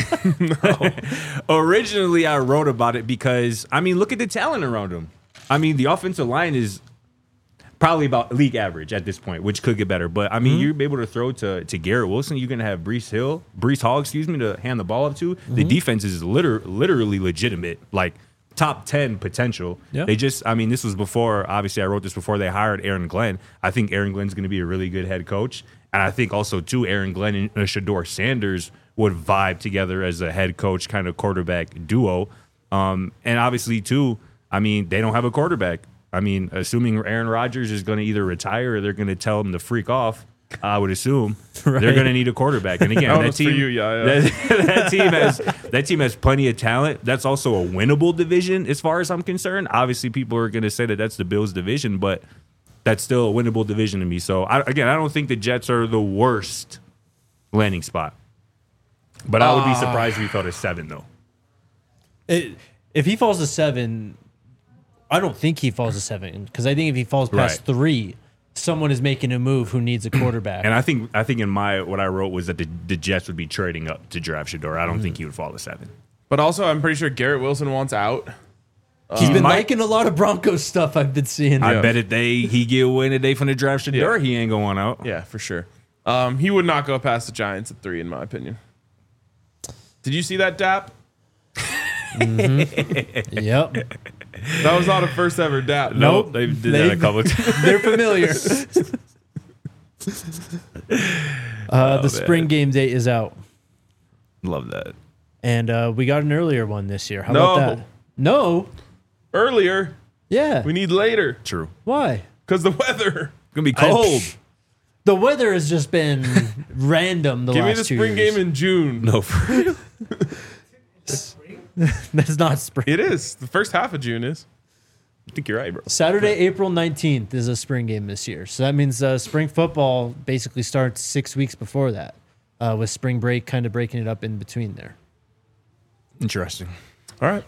A: I wrote about it because, I mean, look at the talent around him. I mean, the offensive line is probably about league average at this point, which could get better. But I mean, you're able to throw to Garrett Wilson. You're gonna have Brees Hall, to hand the ball up to. The defense is literally legitimate, like top 10 potential.
C: Yeah.
A: This was before. Obviously, I wrote this before they hired Aaron Glenn. I think Aaron Glenn's gonna be a really good head coach, and I think also too Aaron Glenn and Shador Sanders would vibe together as a head coach kind of quarterback duo. And obviously too, I mean, they don't have a quarterback. I mean, assuming Aaron Rodgers is going to either retire or they're going to tell him to freak off, I would assume they're going to need a quarterback. And again, that team, that team has plenty of talent. That's also a winnable division as far as I'm concerned. Obviously, people are going to say that that's the Bills division, but that's still a winnable division to me. So I don't think the Jets are the worst landing spot. But I would be surprised if he fell to 7, though.
C: If he falls to 7, I don't think he falls to 7 because I think if he falls past 3, someone is making a move who needs a quarterback.
A: And I think in what I wrote was that the Jets would be trading up to draft Shador. I don't think he would fall to 7.
B: But also, I'm pretty sure Garrett Wilson wants out.
C: He's been liking a lot of Broncos stuff I've been seeing.
A: I bet if he get away today from the draft Shador, he ain't going out.
B: Yeah, for sure. He would not go past the Giants at 3, in my opinion. Did you see that, Dap?
C: Yep.
B: That was not a first ever Dap.
A: Nope. They did that a couple of times.
C: They're familiar. The spring game date is out.
A: Love that.
C: And we got an earlier one this year. How about that? No.
B: Earlier.
C: Yeah.
B: We need later.
A: True.
C: Why?
B: Because the weather.
A: It's going to be cold.
C: The weather has just been random the
B: Give
C: last 2
B: me the
C: 2
B: spring
C: years.
B: game in June.
A: No, for real.
C: That's not spring.
B: It is. The first half of June is.
A: I think you're right, bro.
C: Saturday, April 19th is a spring game this year. So that means spring football basically starts 6 weeks before that, with spring break kind of breaking it up in between there.
A: Interesting.
B: All right.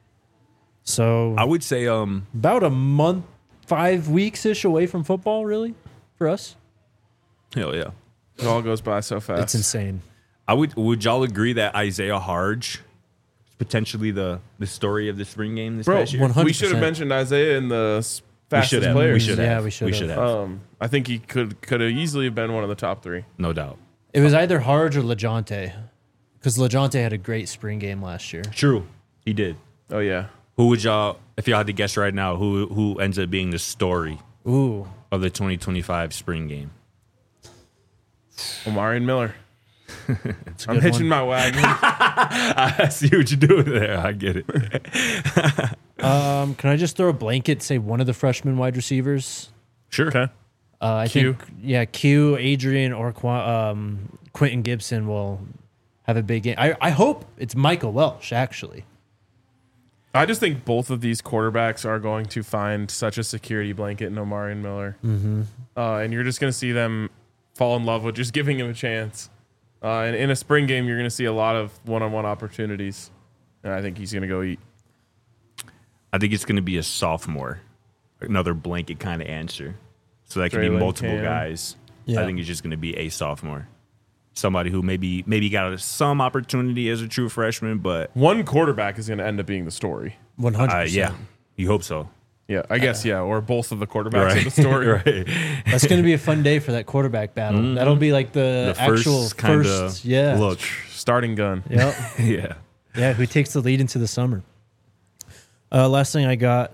C: So
A: I would say
C: about a month, 5 weeks-ish away from football, really, for us.
A: hell yeah.
B: It all goes by so fast.
C: It's insane.
A: Would y'all agree that Isaiah Harge is potentially the story of the spring game this past year?
C: 100%.
B: We should have mentioned Isaiah in the fastest players.
A: We should have.
C: Yeah, we should have.
B: I think he could have easily been one of the top 3.
A: No doubt.
C: It was either Harge or LeJounte, because LeJounte had a great spring game last year.
A: True. He did.
B: Oh yeah.
A: Who would y'all, if y'all had to guess right now, who ends up being the story
C: Ooh.
A: of the 2025 spring game?
B: Omarion Miller.
C: It's a
B: I'm
C: good
B: hitching
C: one.
B: my wagon.
A: I see what you're doing there. I get it.
C: Can I just throw a blanket, say one of the freshman wide receivers?
A: Sure.
B: Okay.
C: I
B: Q.
C: think, Q, Adrian, or Quentin Gibson will have a big game. I hope it's Michael Welsh, actually.
B: I just think both of these quarterbacks are going to find such a security blanket in Omarion Miller. Mm-hmm. And you're just going to see them fall in love with just giving him a chance. And in a spring game, you're going to see a lot of one-on-one opportunities. And I think he's going to go eat.
A: I think it's going to be a sophomore, another blanket kind of answer. So that could be
B: Traylon
A: multiple
B: Cam.
A: guys.
C: Yeah.
A: I think it's just going to be a sophomore. Somebody who maybe got some opportunity as a true freshman, but
B: One quarterback is going to end up being the story.
C: 100%.
A: yeah, you hope so.
B: Yeah, I guess, yeah. Or both of the quarterbacks of the story.
A: Right.
C: That's going to be a fun day for that quarterback battle. That'll be like the actual first yeah.
A: look.
B: Starting gun.
C: Yep.
A: Yeah.
C: Yeah, who takes the lead into the summer. Last thing I got,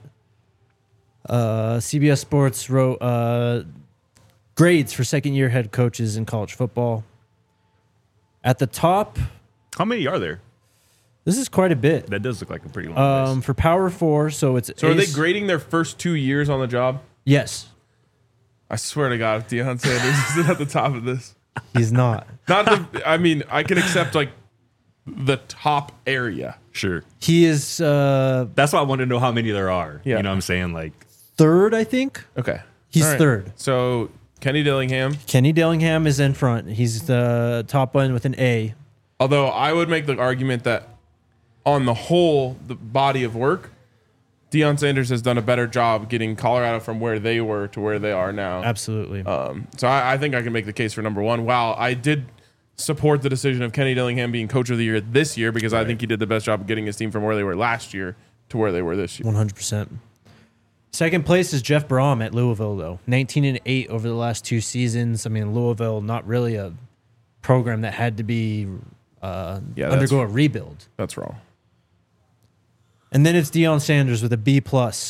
C: CBS Sports wrote grades for second-year head coaches in college football. At the top,
A: How many are there?
C: this is quite a bit.
A: That does look like a pretty long list.
C: For Power 4, so it's
B: So are they
C: Ace-
B: grading their first 2 years on the job?
C: Yes,
B: I swear to God, if Deion Sanders isn't at the top of this.
C: he's not.
B: Not the, I mean, I can accept like the top area.
A: Sure.
C: He is
A: That's why I want to know how many there are.
B: Yeah.
A: You know what I'm saying? Like,
C: third, I think.
B: Okay.
C: He's
B: All right.
C: third.
B: So Kenny Dillingham,
C: Kenny Dillingham is in front. He's the top one with an A.
B: although I would make the argument that on the whole, the body of work, Deion Sanders has done a better job getting Colorado from where they were to where they are now.
C: Absolutely.
B: So I think I can make the case for number one. While I did support the decision of Kenny Dillingham being coach of the year this year because I think he did the best job of getting his team from where they were last year to where they were this year.
C: 100%. Second place is Jeff Brom at Louisville, though. 19-8 over the last 2 seasons. I mean, Louisville, not really a program that had to be undergo a rebuild.
B: That's wrong.
C: And then it's Deion Sanders with a B+.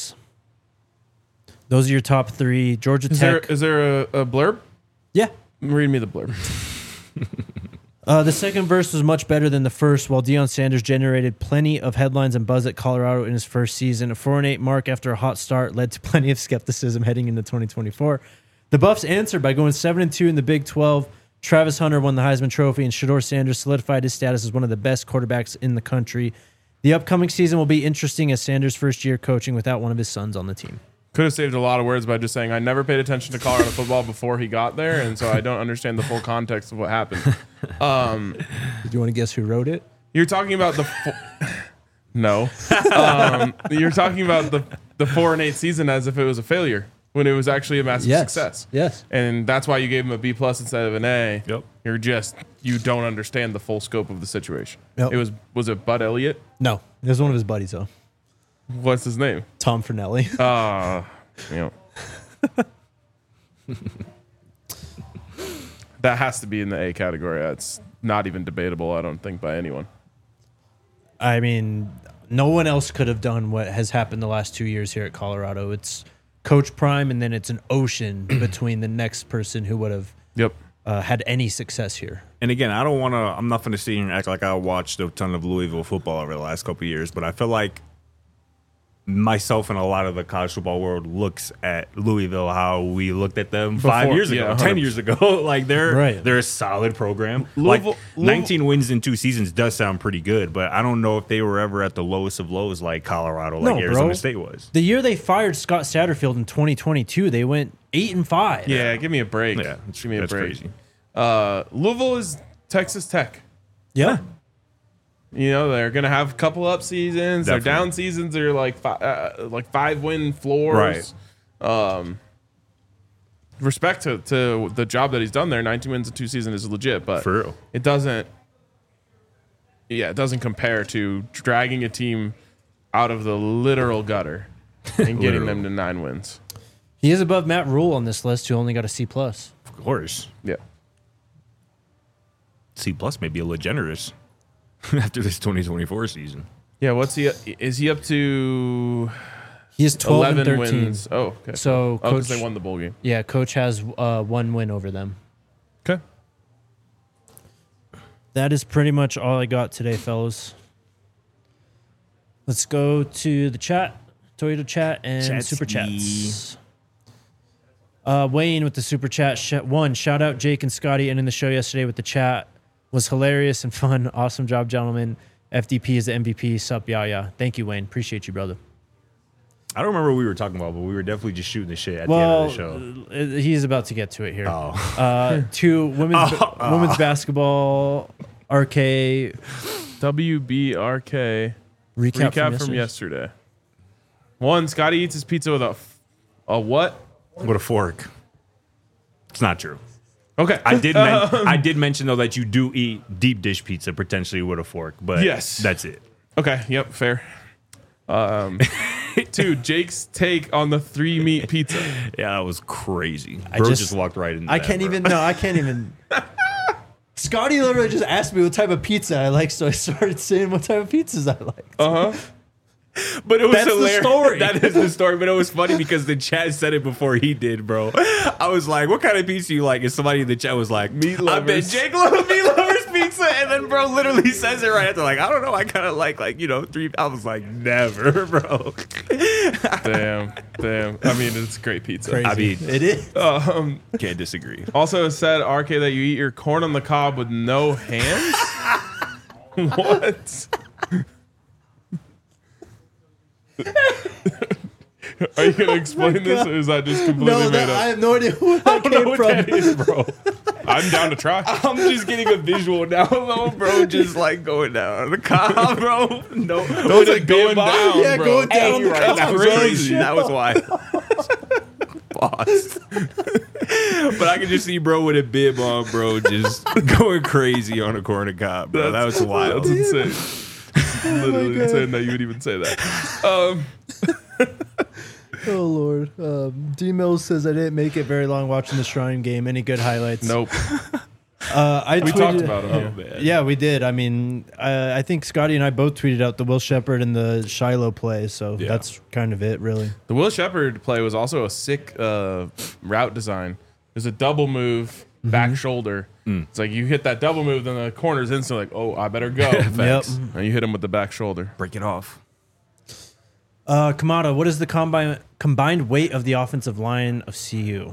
C: Those are your top 3. Georgia Tech.
B: Is there a blurb?
C: Yeah.
B: Read me the blurb.
C: The second verse was much better than the first, while Deion Sanders generated plenty of headlines and buzz at Colorado in his first season. A 4-8 mark after a hot start led to plenty of skepticism heading into 2024. The Buffs answered by going 7-2 in the Big 12. Travis Hunter won the Heisman Trophy, and Shedeur Sanders solidified his status as one of the best quarterbacks in the country. The upcoming season will be interesting as Sanders' first year coaching without one of his sons on the team.
B: Could have saved a lot of words by just saying I never paid attention to Colorado football before he got there, and so I don't understand the full context of what happened.
C: Do you want to guess who wrote it?
B: You're talking about the no. You're talking about the 4-8 season as if it was a failure when it was actually a massive success.
C: Yes.
B: And that's why you gave him a B+ instead of an A.
A: Yep.
B: You don't understand the full scope of the situation.
C: Yep.
B: Was it Bud Elliott?
C: No, it was one of his buddies, though.
B: What's his name?
C: Tom Fernelli.
B: That has to be in the A category. That's not even debatable, I don't think, by anyone.
C: I mean, no one else could have done what has happened the last 2 years here at Colorado. It's Coach Prime, and then it's an ocean between the next person who would have had any success here.
A: And again, I'm not going to sit here and act like I watched a ton of Louisville football over the last couple of years, but I feel like myself and a lot of the college football world looks at Louisville how we looked at them 5 years ago, 10 years ago. Like they're a solid program. Louisville, 19 wins in 2 seasons does sound pretty good, but I don't know if they were ever at the lowest of lows like Colorado, like Arizona State was.
C: The year they fired Scott Satterfield in 2022, they went 8-5.
B: Yeah, give me a break.
A: Yeah,
B: give me a break.
A: Crazy.
B: Louisville is Texas Tech.
C: Yeah.
B: You know, they're going to have a couple up seasons.
A: Definitely.
B: Their down seasons are like 5-win floors.
A: Right.
B: Respect to the job that he's done there. 19 wins in 2 seasons is legit, but
A: For real.
B: it doesn't compare to dragging a team out of the literal gutter and getting them to 9 wins.
C: He is above Matt Rule on this list, who only got a C+.
A: Of course.
B: Yeah.
A: C+ may be a little generous after this 2024 season.
B: Yeah, is he up to
C: He is 12
B: 11
C: and 13.
B: wins? Oh, okay.
C: So
B: because
C: Coach,
B: they won the bowl game.
C: yeah, Coach has 1 win over them.
B: Okay.
C: That is pretty much all I got today, fellas. Let's go to the chat, Toyota chat, and super chats. Wayne with the super chat. Shout out Jake and Scotty ending the show yesterday with the chat. Was hilarious and fun. Awesome job, gentlemen. FDP is the MVP. Sup, yeah. Thank you, Wayne. Appreciate you, brother.
A: I don't remember what we were talking about, but we were definitely just shooting the shit at the end of the show.
C: He's about to get to it here.
A: Oh.
C: To women's basketball, RK.
B: WBRK.
C: Recap
B: from yesterday. 1, Scotty eats his pizza with a what?
A: With a fork. It's not true.
B: Okay.
A: I did mention, though, that you do eat deep dish pizza potentially with a fork, but
B: yes,
A: that's it.
B: Okay. Yep. Fair. 2, Jake's take on the 3-meat pizza.
A: Yeah, that was crazy. Bro just walked right into that.
C: I can't even. Scotty literally just asked me what type of pizza I like, so I started saying what type of pizzas I like.
A: But it was
C: That's
A: hilarious.
C: the story.
A: That is the story. But it was funny because the chat said it before he did, bro. I was like, "What kind of pizza you like?" And somebody in the chat was like,
B: "Meat
A: I
B: lovers."
A: bet Jake loves meat lovers pizza. And then bro literally says it right after, like, I don't know. I kind of like 3. I was like, never, bro.
B: Damn. I mean, it's great pizza.
C: Crazy.
A: I mean,
C: It is.
A: can't disagree.
B: Also, it said RK that you eat your corn on the cob with no hands. What? Are you gonna explain this, or is that just completely made up?
C: I have no idea who that came from.
A: That is, bro.
B: I'm down to try.
A: I'm just getting a visual now, though, bro. Just like going down on the cob, bro. No,
B: Those are going down,
C: Yeah,
B: bro.
C: going down on the
A: Right, that was
C: cob.
A: crazy. That was wild. Boss. But I can just see bro with a bib on, bro, just going crazy on a corner cob, bro. That was wild.
B: That's insane. Literally insane that you would even say that.
C: Oh Lord. D Mills says I didn't make it very long watching the Shrine game. Any good highlights?
B: Nope.
C: We
B: Talked about him.
C: Yeah, we did. I mean, I think Scotty and I both tweeted out the Will Shepherd and the Shiloh play, so that's kind of it, really.
B: The Will Shepherd play was also a sick route design. There's a double move, back shoulder. It's like you hit that double move, then the corner's instantly like, oh, I better go.
C: Yep.
B: And you hit him with the back shoulder.
A: Break it off.
C: Kamada, what is the combined weight of the offensive line of CU?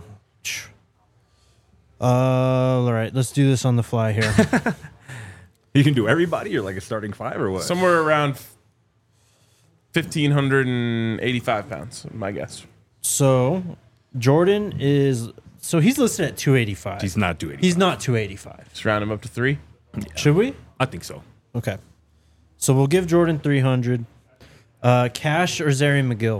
C: All right, let's do this on the fly here.
A: You can do everybody or like a starting five or what?
B: Somewhere around 1,585 pounds, my guess.
C: So Jordan is he's listed at 285.
A: He's not 285.
C: He's not 285.
B: Just round him up to 3.
C: Should we?
A: I think so.
C: Okay. So we'll give Jordan 300. Cash or Zarian McGill?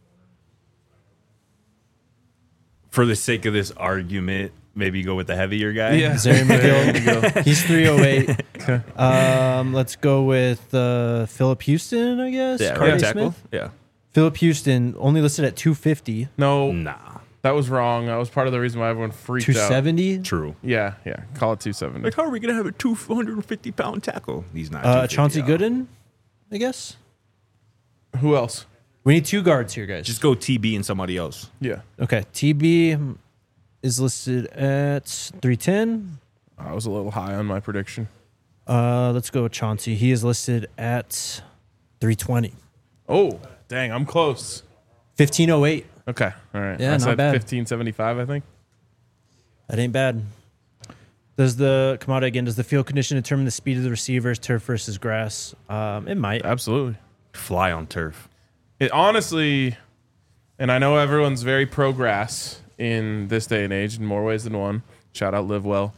A: For the sake of this argument, maybe go with the heavier guy.
B: Yeah.
C: Zarian McGill. He's 308. Okay. Let's go with Philip Houston, I guess.
A: Yeah,
C: Cardi
A: right tackle.
C: Smith?
A: Yeah.
C: Philip Houston only listed at 250.
B: No,
A: Nah.
B: that was wrong. That was part of the reason why everyone freaked out.
C: 270.
A: True.
B: Yeah. Call it 270.
A: Like, how are we gonna have a 250-pound tackle? He's not. 250
C: Chauncey
A: out.
C: Gooden, I guess.
B: Who else?
C: We need 2 guards here, guys.
A: Just go TB and somebody else.
B: Yeah.
C: Okay. TB is listed at 310.
B: I was a little high on my prediction.
C: Let's go with Chauncey. He is listed at 320.
B: Oh, dang. I'm close.
C: 1508.
B: Okay. All right.
C: Yeah,
B: I
C: not
B: said
C: bad.
B: 1575, I think.
C: That ain't bad. Does the field condition determine the speed of the receivers, turf versus grass? It might.
B: Absolutely.
A: Fly on turf.
B: It honestly, and I know everyone's very pro grass in this day and age in more ways than one. Shout out Live Well.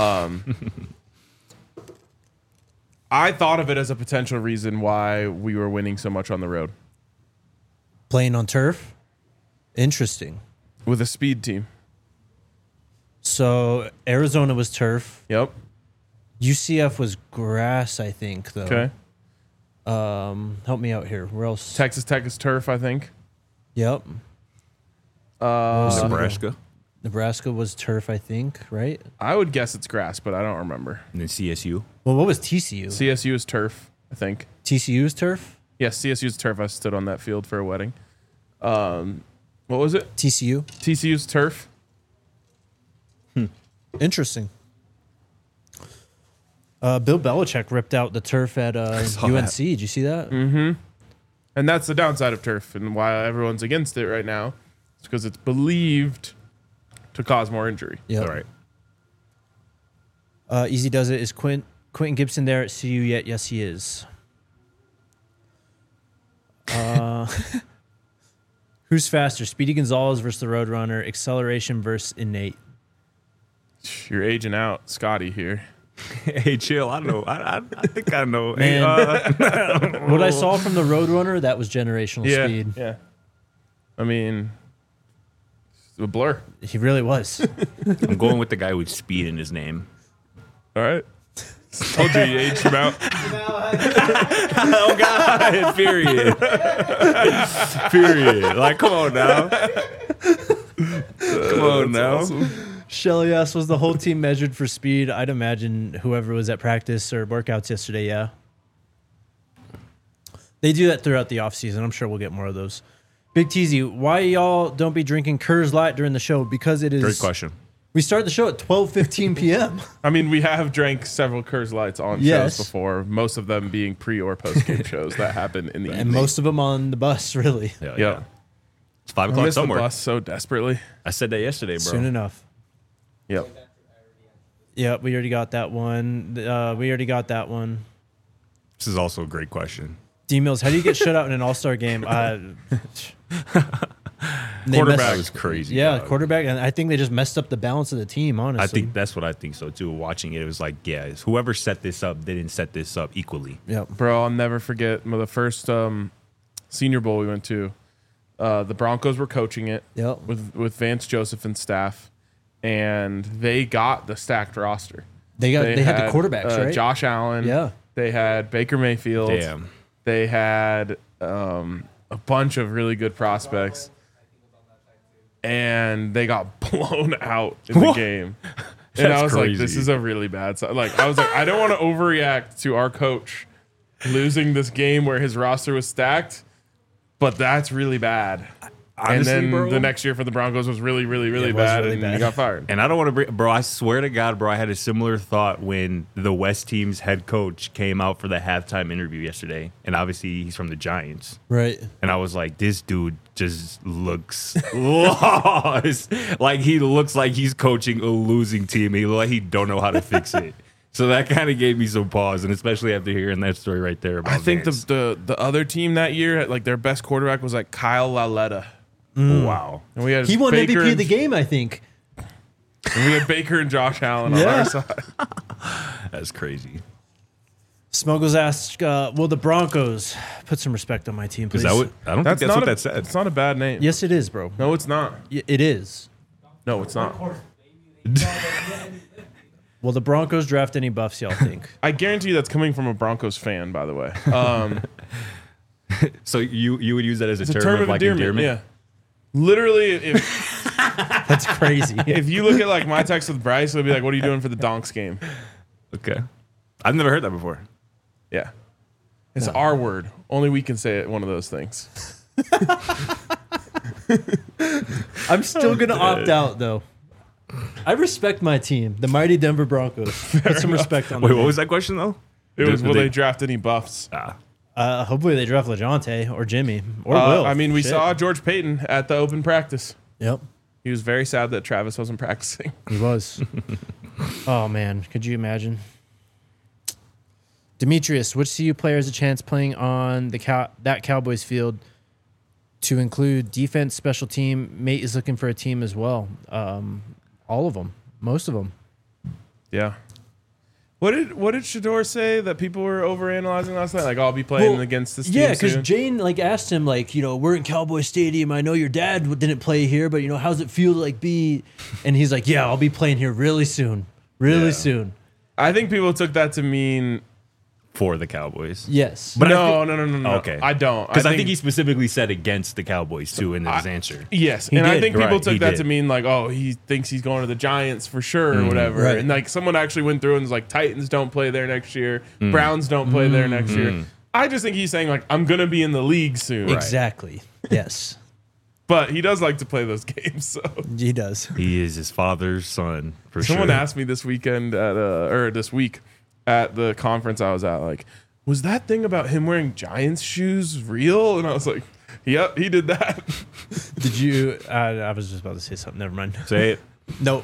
B: I thought of it as a potential reason why we were winning so much on the road
C: Playing on turf? Interesting.
B: with a speed team.
C: So Arizona was turf.
B: Yep.
C: UCF was grass, I think, though.
B: Okay.
C: Help me out here. Where else?
B: Texas Tech is turf, I think.
C: Yep.
A: Nebraska.
C: Nebraska was turf, I think, right?
B: I would guess it's grass, but I don't remember.
A: And then CSU.
C: Well, what was TCU?
B: CSU is turf, I think.
C: TCU's turf?
B: Yes, CSU's turf. I stood on that field for a wedding. What was it?
C: TCU.
B: TCU's turf.
C: Interesting. Bill Belichick ripped out the turf at UNC. Did you see that?
B: And that's the downside of turf and why everyone's against it right now. It's because it's believed to cause more injury.
C: Yeah.
A: All right.
C: Easy does it. Is Quentin Gibson there at CU yet? Yes, he is. Who's faster, Speedy Gonzalez versus the Roadrunner, acceleration versus innate?
B: You're aging out, Scotty here.
A: Hey, chill. I don't know. I think I know.
C: Man.
A: Hey,
C: What I saw from the Roadrunner, that was generational speed.
B: Yeah. I mean, it's a blur.
C: He really was.
A: I'm going with the guy with speed in his name.
B: All right. Told you you aged him out.
A: Oh God! Period. Period. Like, come on now. Come on now.
B: Awesome.
C: Shelly asked, was the whole team measured for speed? I'd imagine whoever was at practice or workouts yesterday, yeah. They do that throughout the offseason. I'm sure we'll get more of those. Big Teasy, why y'all don't be drinking Coors Light during the show? Because it is...
A: Great question.
C: We start the show at 12:15 p.m.
B: I mean, we have drank several Coors Lights on
C: Yes.
B: shows before, most of them being pre or post game shows that happen in the
C: And
B: evening.
C: most of them on the bus, really.
A: Yeah.
B: Yeah.
A: It's 5
B: I
A: o'clock
B: miss the
A: somewhere.
B: bus so desperately.
A: I said that yesterday, bro.
C: Soon enough.
B: Yep.
C: Yep, we already got that one.
A: This is also a great question.
C: D-Mills, how do you get shut out in an all-star game?
A: Quarterback was crazy.
C: Yeah,
A: dog.
C: quarterback. And I think they just messed up the balance of the team, honestly.
A: I think that's what I think so too. Watching it, it was like, yeah, it's whoever set this up, they didn't set this up equally.
C: Yep.
B: Bro, I'll never forget the first Senior Bowl we went to. The Broncos were coaching it
C: Yep.
B: with Vance Joseph and staff, and they got the stacked roster.
C: They had the quarterbacks, right?
B: Josh Allen.
C: Yeah.
B: They had Baker Mayfield.
A: Damn.
B: They had a bunch of really good prospects. and they got blown out in the game. And I was like, this is a really bad sign. Like, I was like, I don't want to overreact to our coach losing this game where his roster was stacked, but that's really bad. Honestly, and then bro, the next year for the Broncos was really, really, really bad, and he got fired.
A: And I don't want to bring, bro, I swear to God, bro, I had a similar thought when the West team's head coach came out for the halftime interview yesterday. And obviously, he's from the Giants.
C: Right.
A: And I was like, this dude just looks lost. Like, he looks like he's coaching a losing team. He looks like he don't know how to fix it. So that kind of gave me some pause, and especially after hearing that story right there about
B: I think
A: Vance.
B: the other team that year, like their best quarterback was like Kyle Lauletta.
A: Wow.
B: And we had
C: He won
B: Baker
C: MVP of the game, I think.
B: And we had Baker and Josh Allen on our side.
A: That's crazy.
C: Smuggles asked, will the Broncos put some respect on my team, please?
A: Is that what? I don't think that's what that said.
B: It's not a bad name.
C: Yes, it is, bro.
B: No, it's not.
C: It is.
B: No, it's not.
C: Will the Broncos draft any buffs, y'all think?
B: I guarantee you that's coming from a Broncos fan, by the way.
A: So you would use that as
B: It's
A: a
B: a
A: term of like endearment?
B: Yeah. Literally, if
C: That's crazy.
B: if you look at like my text with Bryce, it'll be like, "What are you doing for the Donks game?"
A: Okay. I've never heard that before.
B: Yeah, it's our word. Only we can say it. One of those things.
C: I'm still going to opt out, though. I respect my team, the mighty Denver Broncos. Put some respect on
A: Wait,
C: them.
A: what was that question though?
B: It was, will they draft any buffs?
C: Hopefully they draft LeJohn or Jimmy or Will.
B: I mean, we
C: Shit.
B: saw George Payton at the open practice.
C: Yep.
B: He was very sad that Travis wasn't practicing.
C: He was. Oh, man. Could you imagine? Demetrius, which CU player has a chance playing on that Cowboys field to include defense, special team? Mate is looking for a team as well. All of them. Most of them.
B: Yeah. What did Shador say that people were overanalyzing last night? Like, I'll be playing against this team.
C: Yeah, because
B: soon?
C: Jane asked him we're in Cowboy Stadium. I know your dad didn't play here, but how's it feel to be? And he's like, yeah, I'll be playing here really soon, soon.
B: I think people took that to mean
A: For the Cowboys.
C: Yes,
A: But
B: no.
A: Okay.
B: I don't.
A: Because I think he specifically said against the Cowboys too in his answer.
B: Yes,
C: He
B: and I
C: did.
B: think people
A: Right,
B: took
A: he
B: that
A: did.
B: to mean like, oh, he thinks he's going to the Giants for sure or whatever.
C: Right.
B: And like someone actually went through and was like, Titans don't play there next year, Browns don't play there next year. I just think he's saying like, I'm gonna be in the league soon.
C: exactly. Yes,
B: But he does like to play those games. So
C: he does.
A: He is his father's son for
B: someone
A: sure.
B: asked me this weekend this week at the conference I was at, like, was that thing about him wearing Giants shoes real? And I was like, yep, he did that.
C: Did you? I was just about to say something. Never mind.
A: Say it.
C: Nope.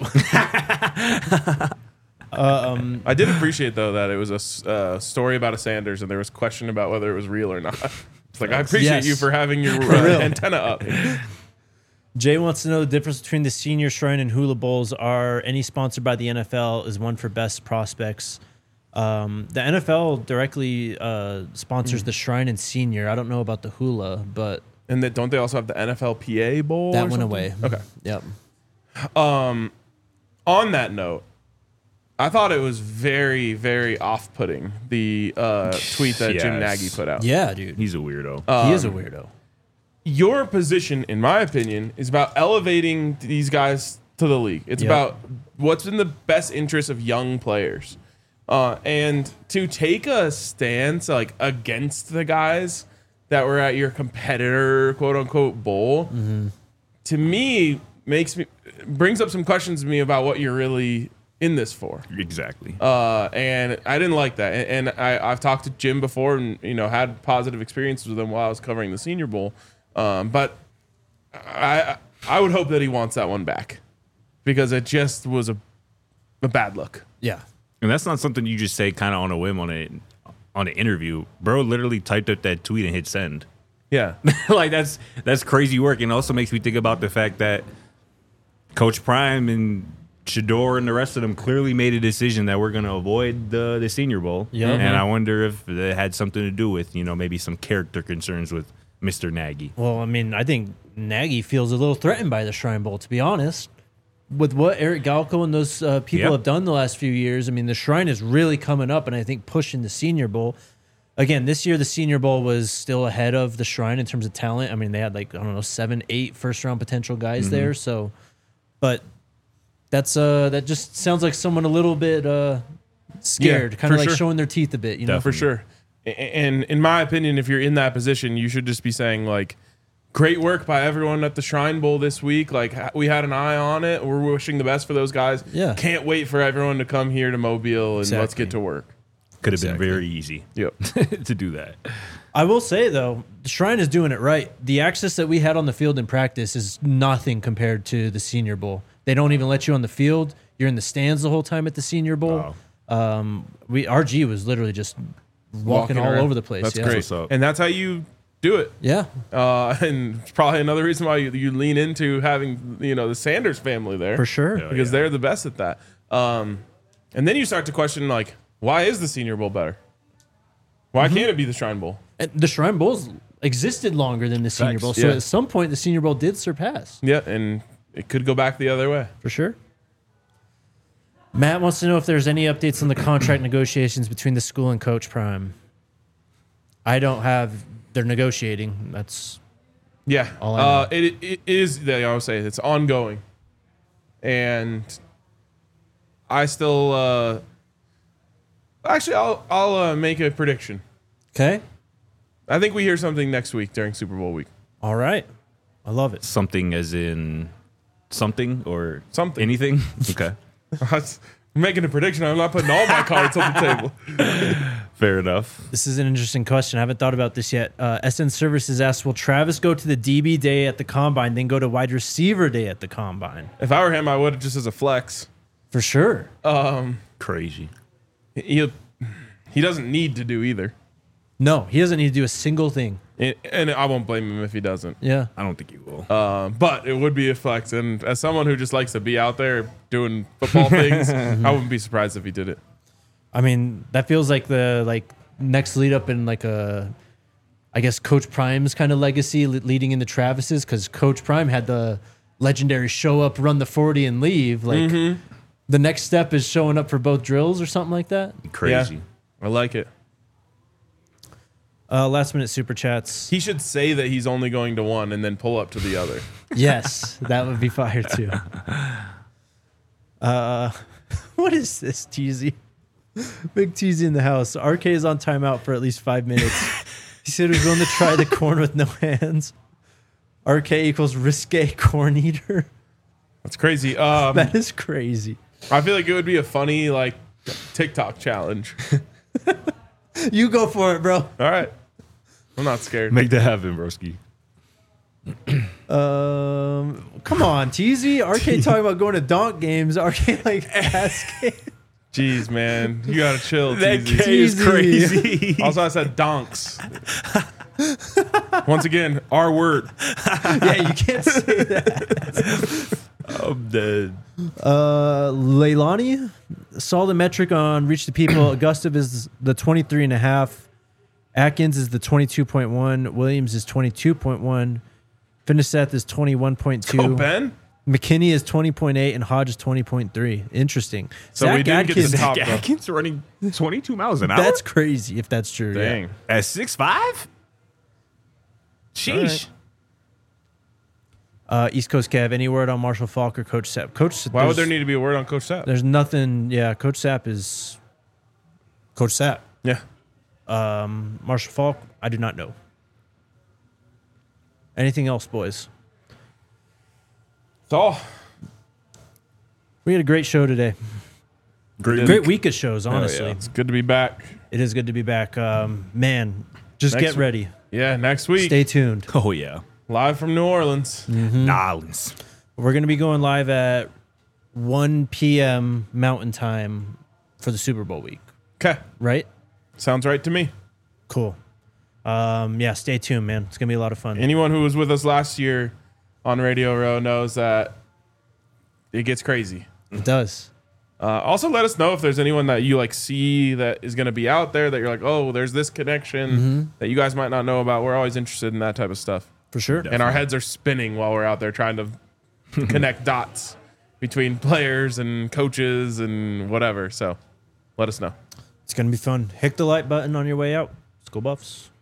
B: I did appreciate though that it was a story about a Sanders, and there was question about whether it was real or not. It's like, I appreciate
C: Yes.
B: you for having your
C: real.
B: antenna up.
C: Jay wants to know the difference between the Senior Shrine and Hula Bowls. Are any sponsored by the NFL? Is one for best prospects? The NFL directly sponsors the Shrine and Senior. I don't know about the Hula, but
B: And that don't they also have the NFLPA Bowl?
C: that
B: or
C: went
B: something?
C: away.
B: Okay.
C: Yep.
B: On that note, I thought it was very, very off-putting, the tweet that Jim
A: Yes.
B: Nagy put out.
C: Yeah, dude.
A: He's a weirdo.
C: He is a weirdo.
B: Your position, in my opinion, is about elevating these guys to the league. It's
C: Yep.
B: about what's in the best interest of young players. And to take a stance like against the guys that were at your competitor, quote unquote, bowl, to me brings up some questions to me about what you're really in this for.
A: Exactly.
B: And I didn't like that. And I've talked to Jim before and, had positive experiences with him while I was covering the Senior Bowl. But I would hope that he wants that one back because it just was a bad look.
C: Yeah.
A: And that's not something you just say kind of on a whim on an interview. Bro literally typed up that tweet and hit send.
B: Yeah.
A: Like that's crazy work. And it also makes me think about the fact that Coach Prime and Shador and the rest of them clearly made a decision that we're going to avoid the Senior Bowl.
C: Yeah.
A: And I wonder if it had something to do with, maybe some character concerns with Mr. Nagy.
C: Well, I mean, I think Nagy feels a little threatened by the Shrine Bowl, to be honest. With what Eric Galco and those people
A: Yep.
C: have done the last few years, I mean, the Shrine is really coming up, and I think pushing the Senior Bowl. again, this year the Senior Bowl was still ahead of the Shrine in terms of talent. I mean, they had 7, 8 first-round potential guys there. So, but that just sounds like someone a little bit scared, kind of like showing their teeth a bit, you know?
B: For sure. And in my opinion, if you're in that position, you should just be saying, like, great work by everyone at the Shrine Bowl this week. Like, we had an eye on it. We're wishing the best for those guys.
C: Yeah.
B: Can't wait for everyone to come here to Mobile, and let's get to work.
A: Could have been very easy to do that.
C: I will say, though, the Shrine is doing it right. The access that we had on the field in practice is nothing compared to the Senior Bowl. They don't even let you on the field. You're in the stands the whole time at the Senior Bowl. RG was literally just walking all over the place.
B: That's great. And that's how you do it.
C: Yeah.
B: And it's probably another reason why you lean into having, the Sanders family there.
C: For sure.
B: Because they're the best at that. And then you start to question, like, why is the Senior Bowl better? Why can't it be the Shrine Bowl?
C: And the Shrine Bowl's existed longer than the Senior Bowl. So at some point, the Senior Bowl did surpass.
B: Yeah, and it could go back the other way.
C: For sure. Matt wants to know if there's any updates on the contract negotiations between the school and Coach Prime. I don't have. They're negotiating. That's all I know.
B: It is. I always say it's ongoing, and I still. Actually, I'll make a prediction.
C: Okay.
B: I think we hear something next week during Super Bowl week.
C: All right. I love it.
A: Something as in something or
B: something.
A: Anything? Okay.
B: I'm making a prediction. I'm not putting all my cards on the table.
A: Fair enough.
C: This is an interesting question. I haven't thought about this yet. SN Services asks, will Travis go to the DB day at the Combine, then go to wide receiver day at the Combine?
B: If I were him, I would just as a flex.
C: For sure.
A: Crazy.
B: He doesn't need to do either.
C: No, he doesn't need to do a single thing.
B: And I won't blame him if he doesn't.
C: Yeah.
A: I don't think he will.
B: But it would be a flex. And as someone who just likes to be out there doing football things, I wouldn't be surprised if he did it.
C: I mean, that feels like the next lead up in I guess Coach Prime's kind of legacy leading into Travis's, because Coach Prime had the legendary show up, run the 40 and leave. The next step is showing up for both drills or something like that.
A: Crazy.
B: Yeah, I like it.
C: Last minute super chats.
B: He should say that he's only going to one and then pull up to the other.
C: Yes, that would be fire too. What is this, Teasy? Big Teasy in the house. RK is on timeout for at least 5 minutes. He said he was going to try the corn with no hands. RK equals risque corn eater.
B: That's crazy.
C: That is crazy.
B: I feel like it would be a funny TikTok challenge.
C: You go for it, bro.
B: All right. I'm not scared.
A: Make that happen, broski.
C: Come on, Teasy. RK talking about going to donk games. RK asking.
B: Jeez, man. You got to chill,
A: That
B: Teasy.
A: K is crazy.
B: Also, I said donks. Once again, our word.
C: Yeah, you can't say that.
A: I'm dead.
C: Leilani saw the metric on Reach the People. Augusta is the 23.5. Atkins is the 22.1. Williams is 22.1. Finiseth is 21.2.
B: Go, Ben.
C: McKinney is 20.8 and Hodge is 20.3. Interesting.
B: So we didn't get the top.
A: Atkins running 22 miles an hour?
C: That's crazy if that's true.
B: Dang.
C: Yeah.
A: At 6'5"? Sheesh.
C: East Coast Kev, any word on Marshall Falk or Coach Sapp?
B: Why would there need to be a word on Coach Sapp?
C: There's nothing. Yeah, Coach Sapp is Coach Sapp.
B: Yeah.
C: Marshall Falk, I do not know. Anything else, boys?
B: That's all.
C: We had a great show today. Great week of shows, honestly.
B: Yeah. It's good to be back.
C: It is good to be back. Man, just get ready.
B: Yeah, next week.
C: Stay tuned.
A: Oh, yeah.
B: Live from New Orleans.
A: Nolans.
C: We're going to be going live at 1 p.m. Mountain Time for the Super Bowl week.
B: Okay.
C: Right?
B: Sounds right to me.
C: Cool. Yeah, stay tuned, man. It's going to be a lot of fun.
B: Anyone who was with us last year on Radio Row knows that it gets crazy.
C: It does.
B: Also, let us know if there's anyone that you see that is going to be out there that you're like, oh, there's this connection that you guys might not know about. We're always interested in that type of stuff.
C: For sure.
B: And our heads are spinning while we're out there trying to connect dots between players and coaches and whatever. So let us know.
C: It's going to be fun. Hit the like button on your way out. Let's go Buffs.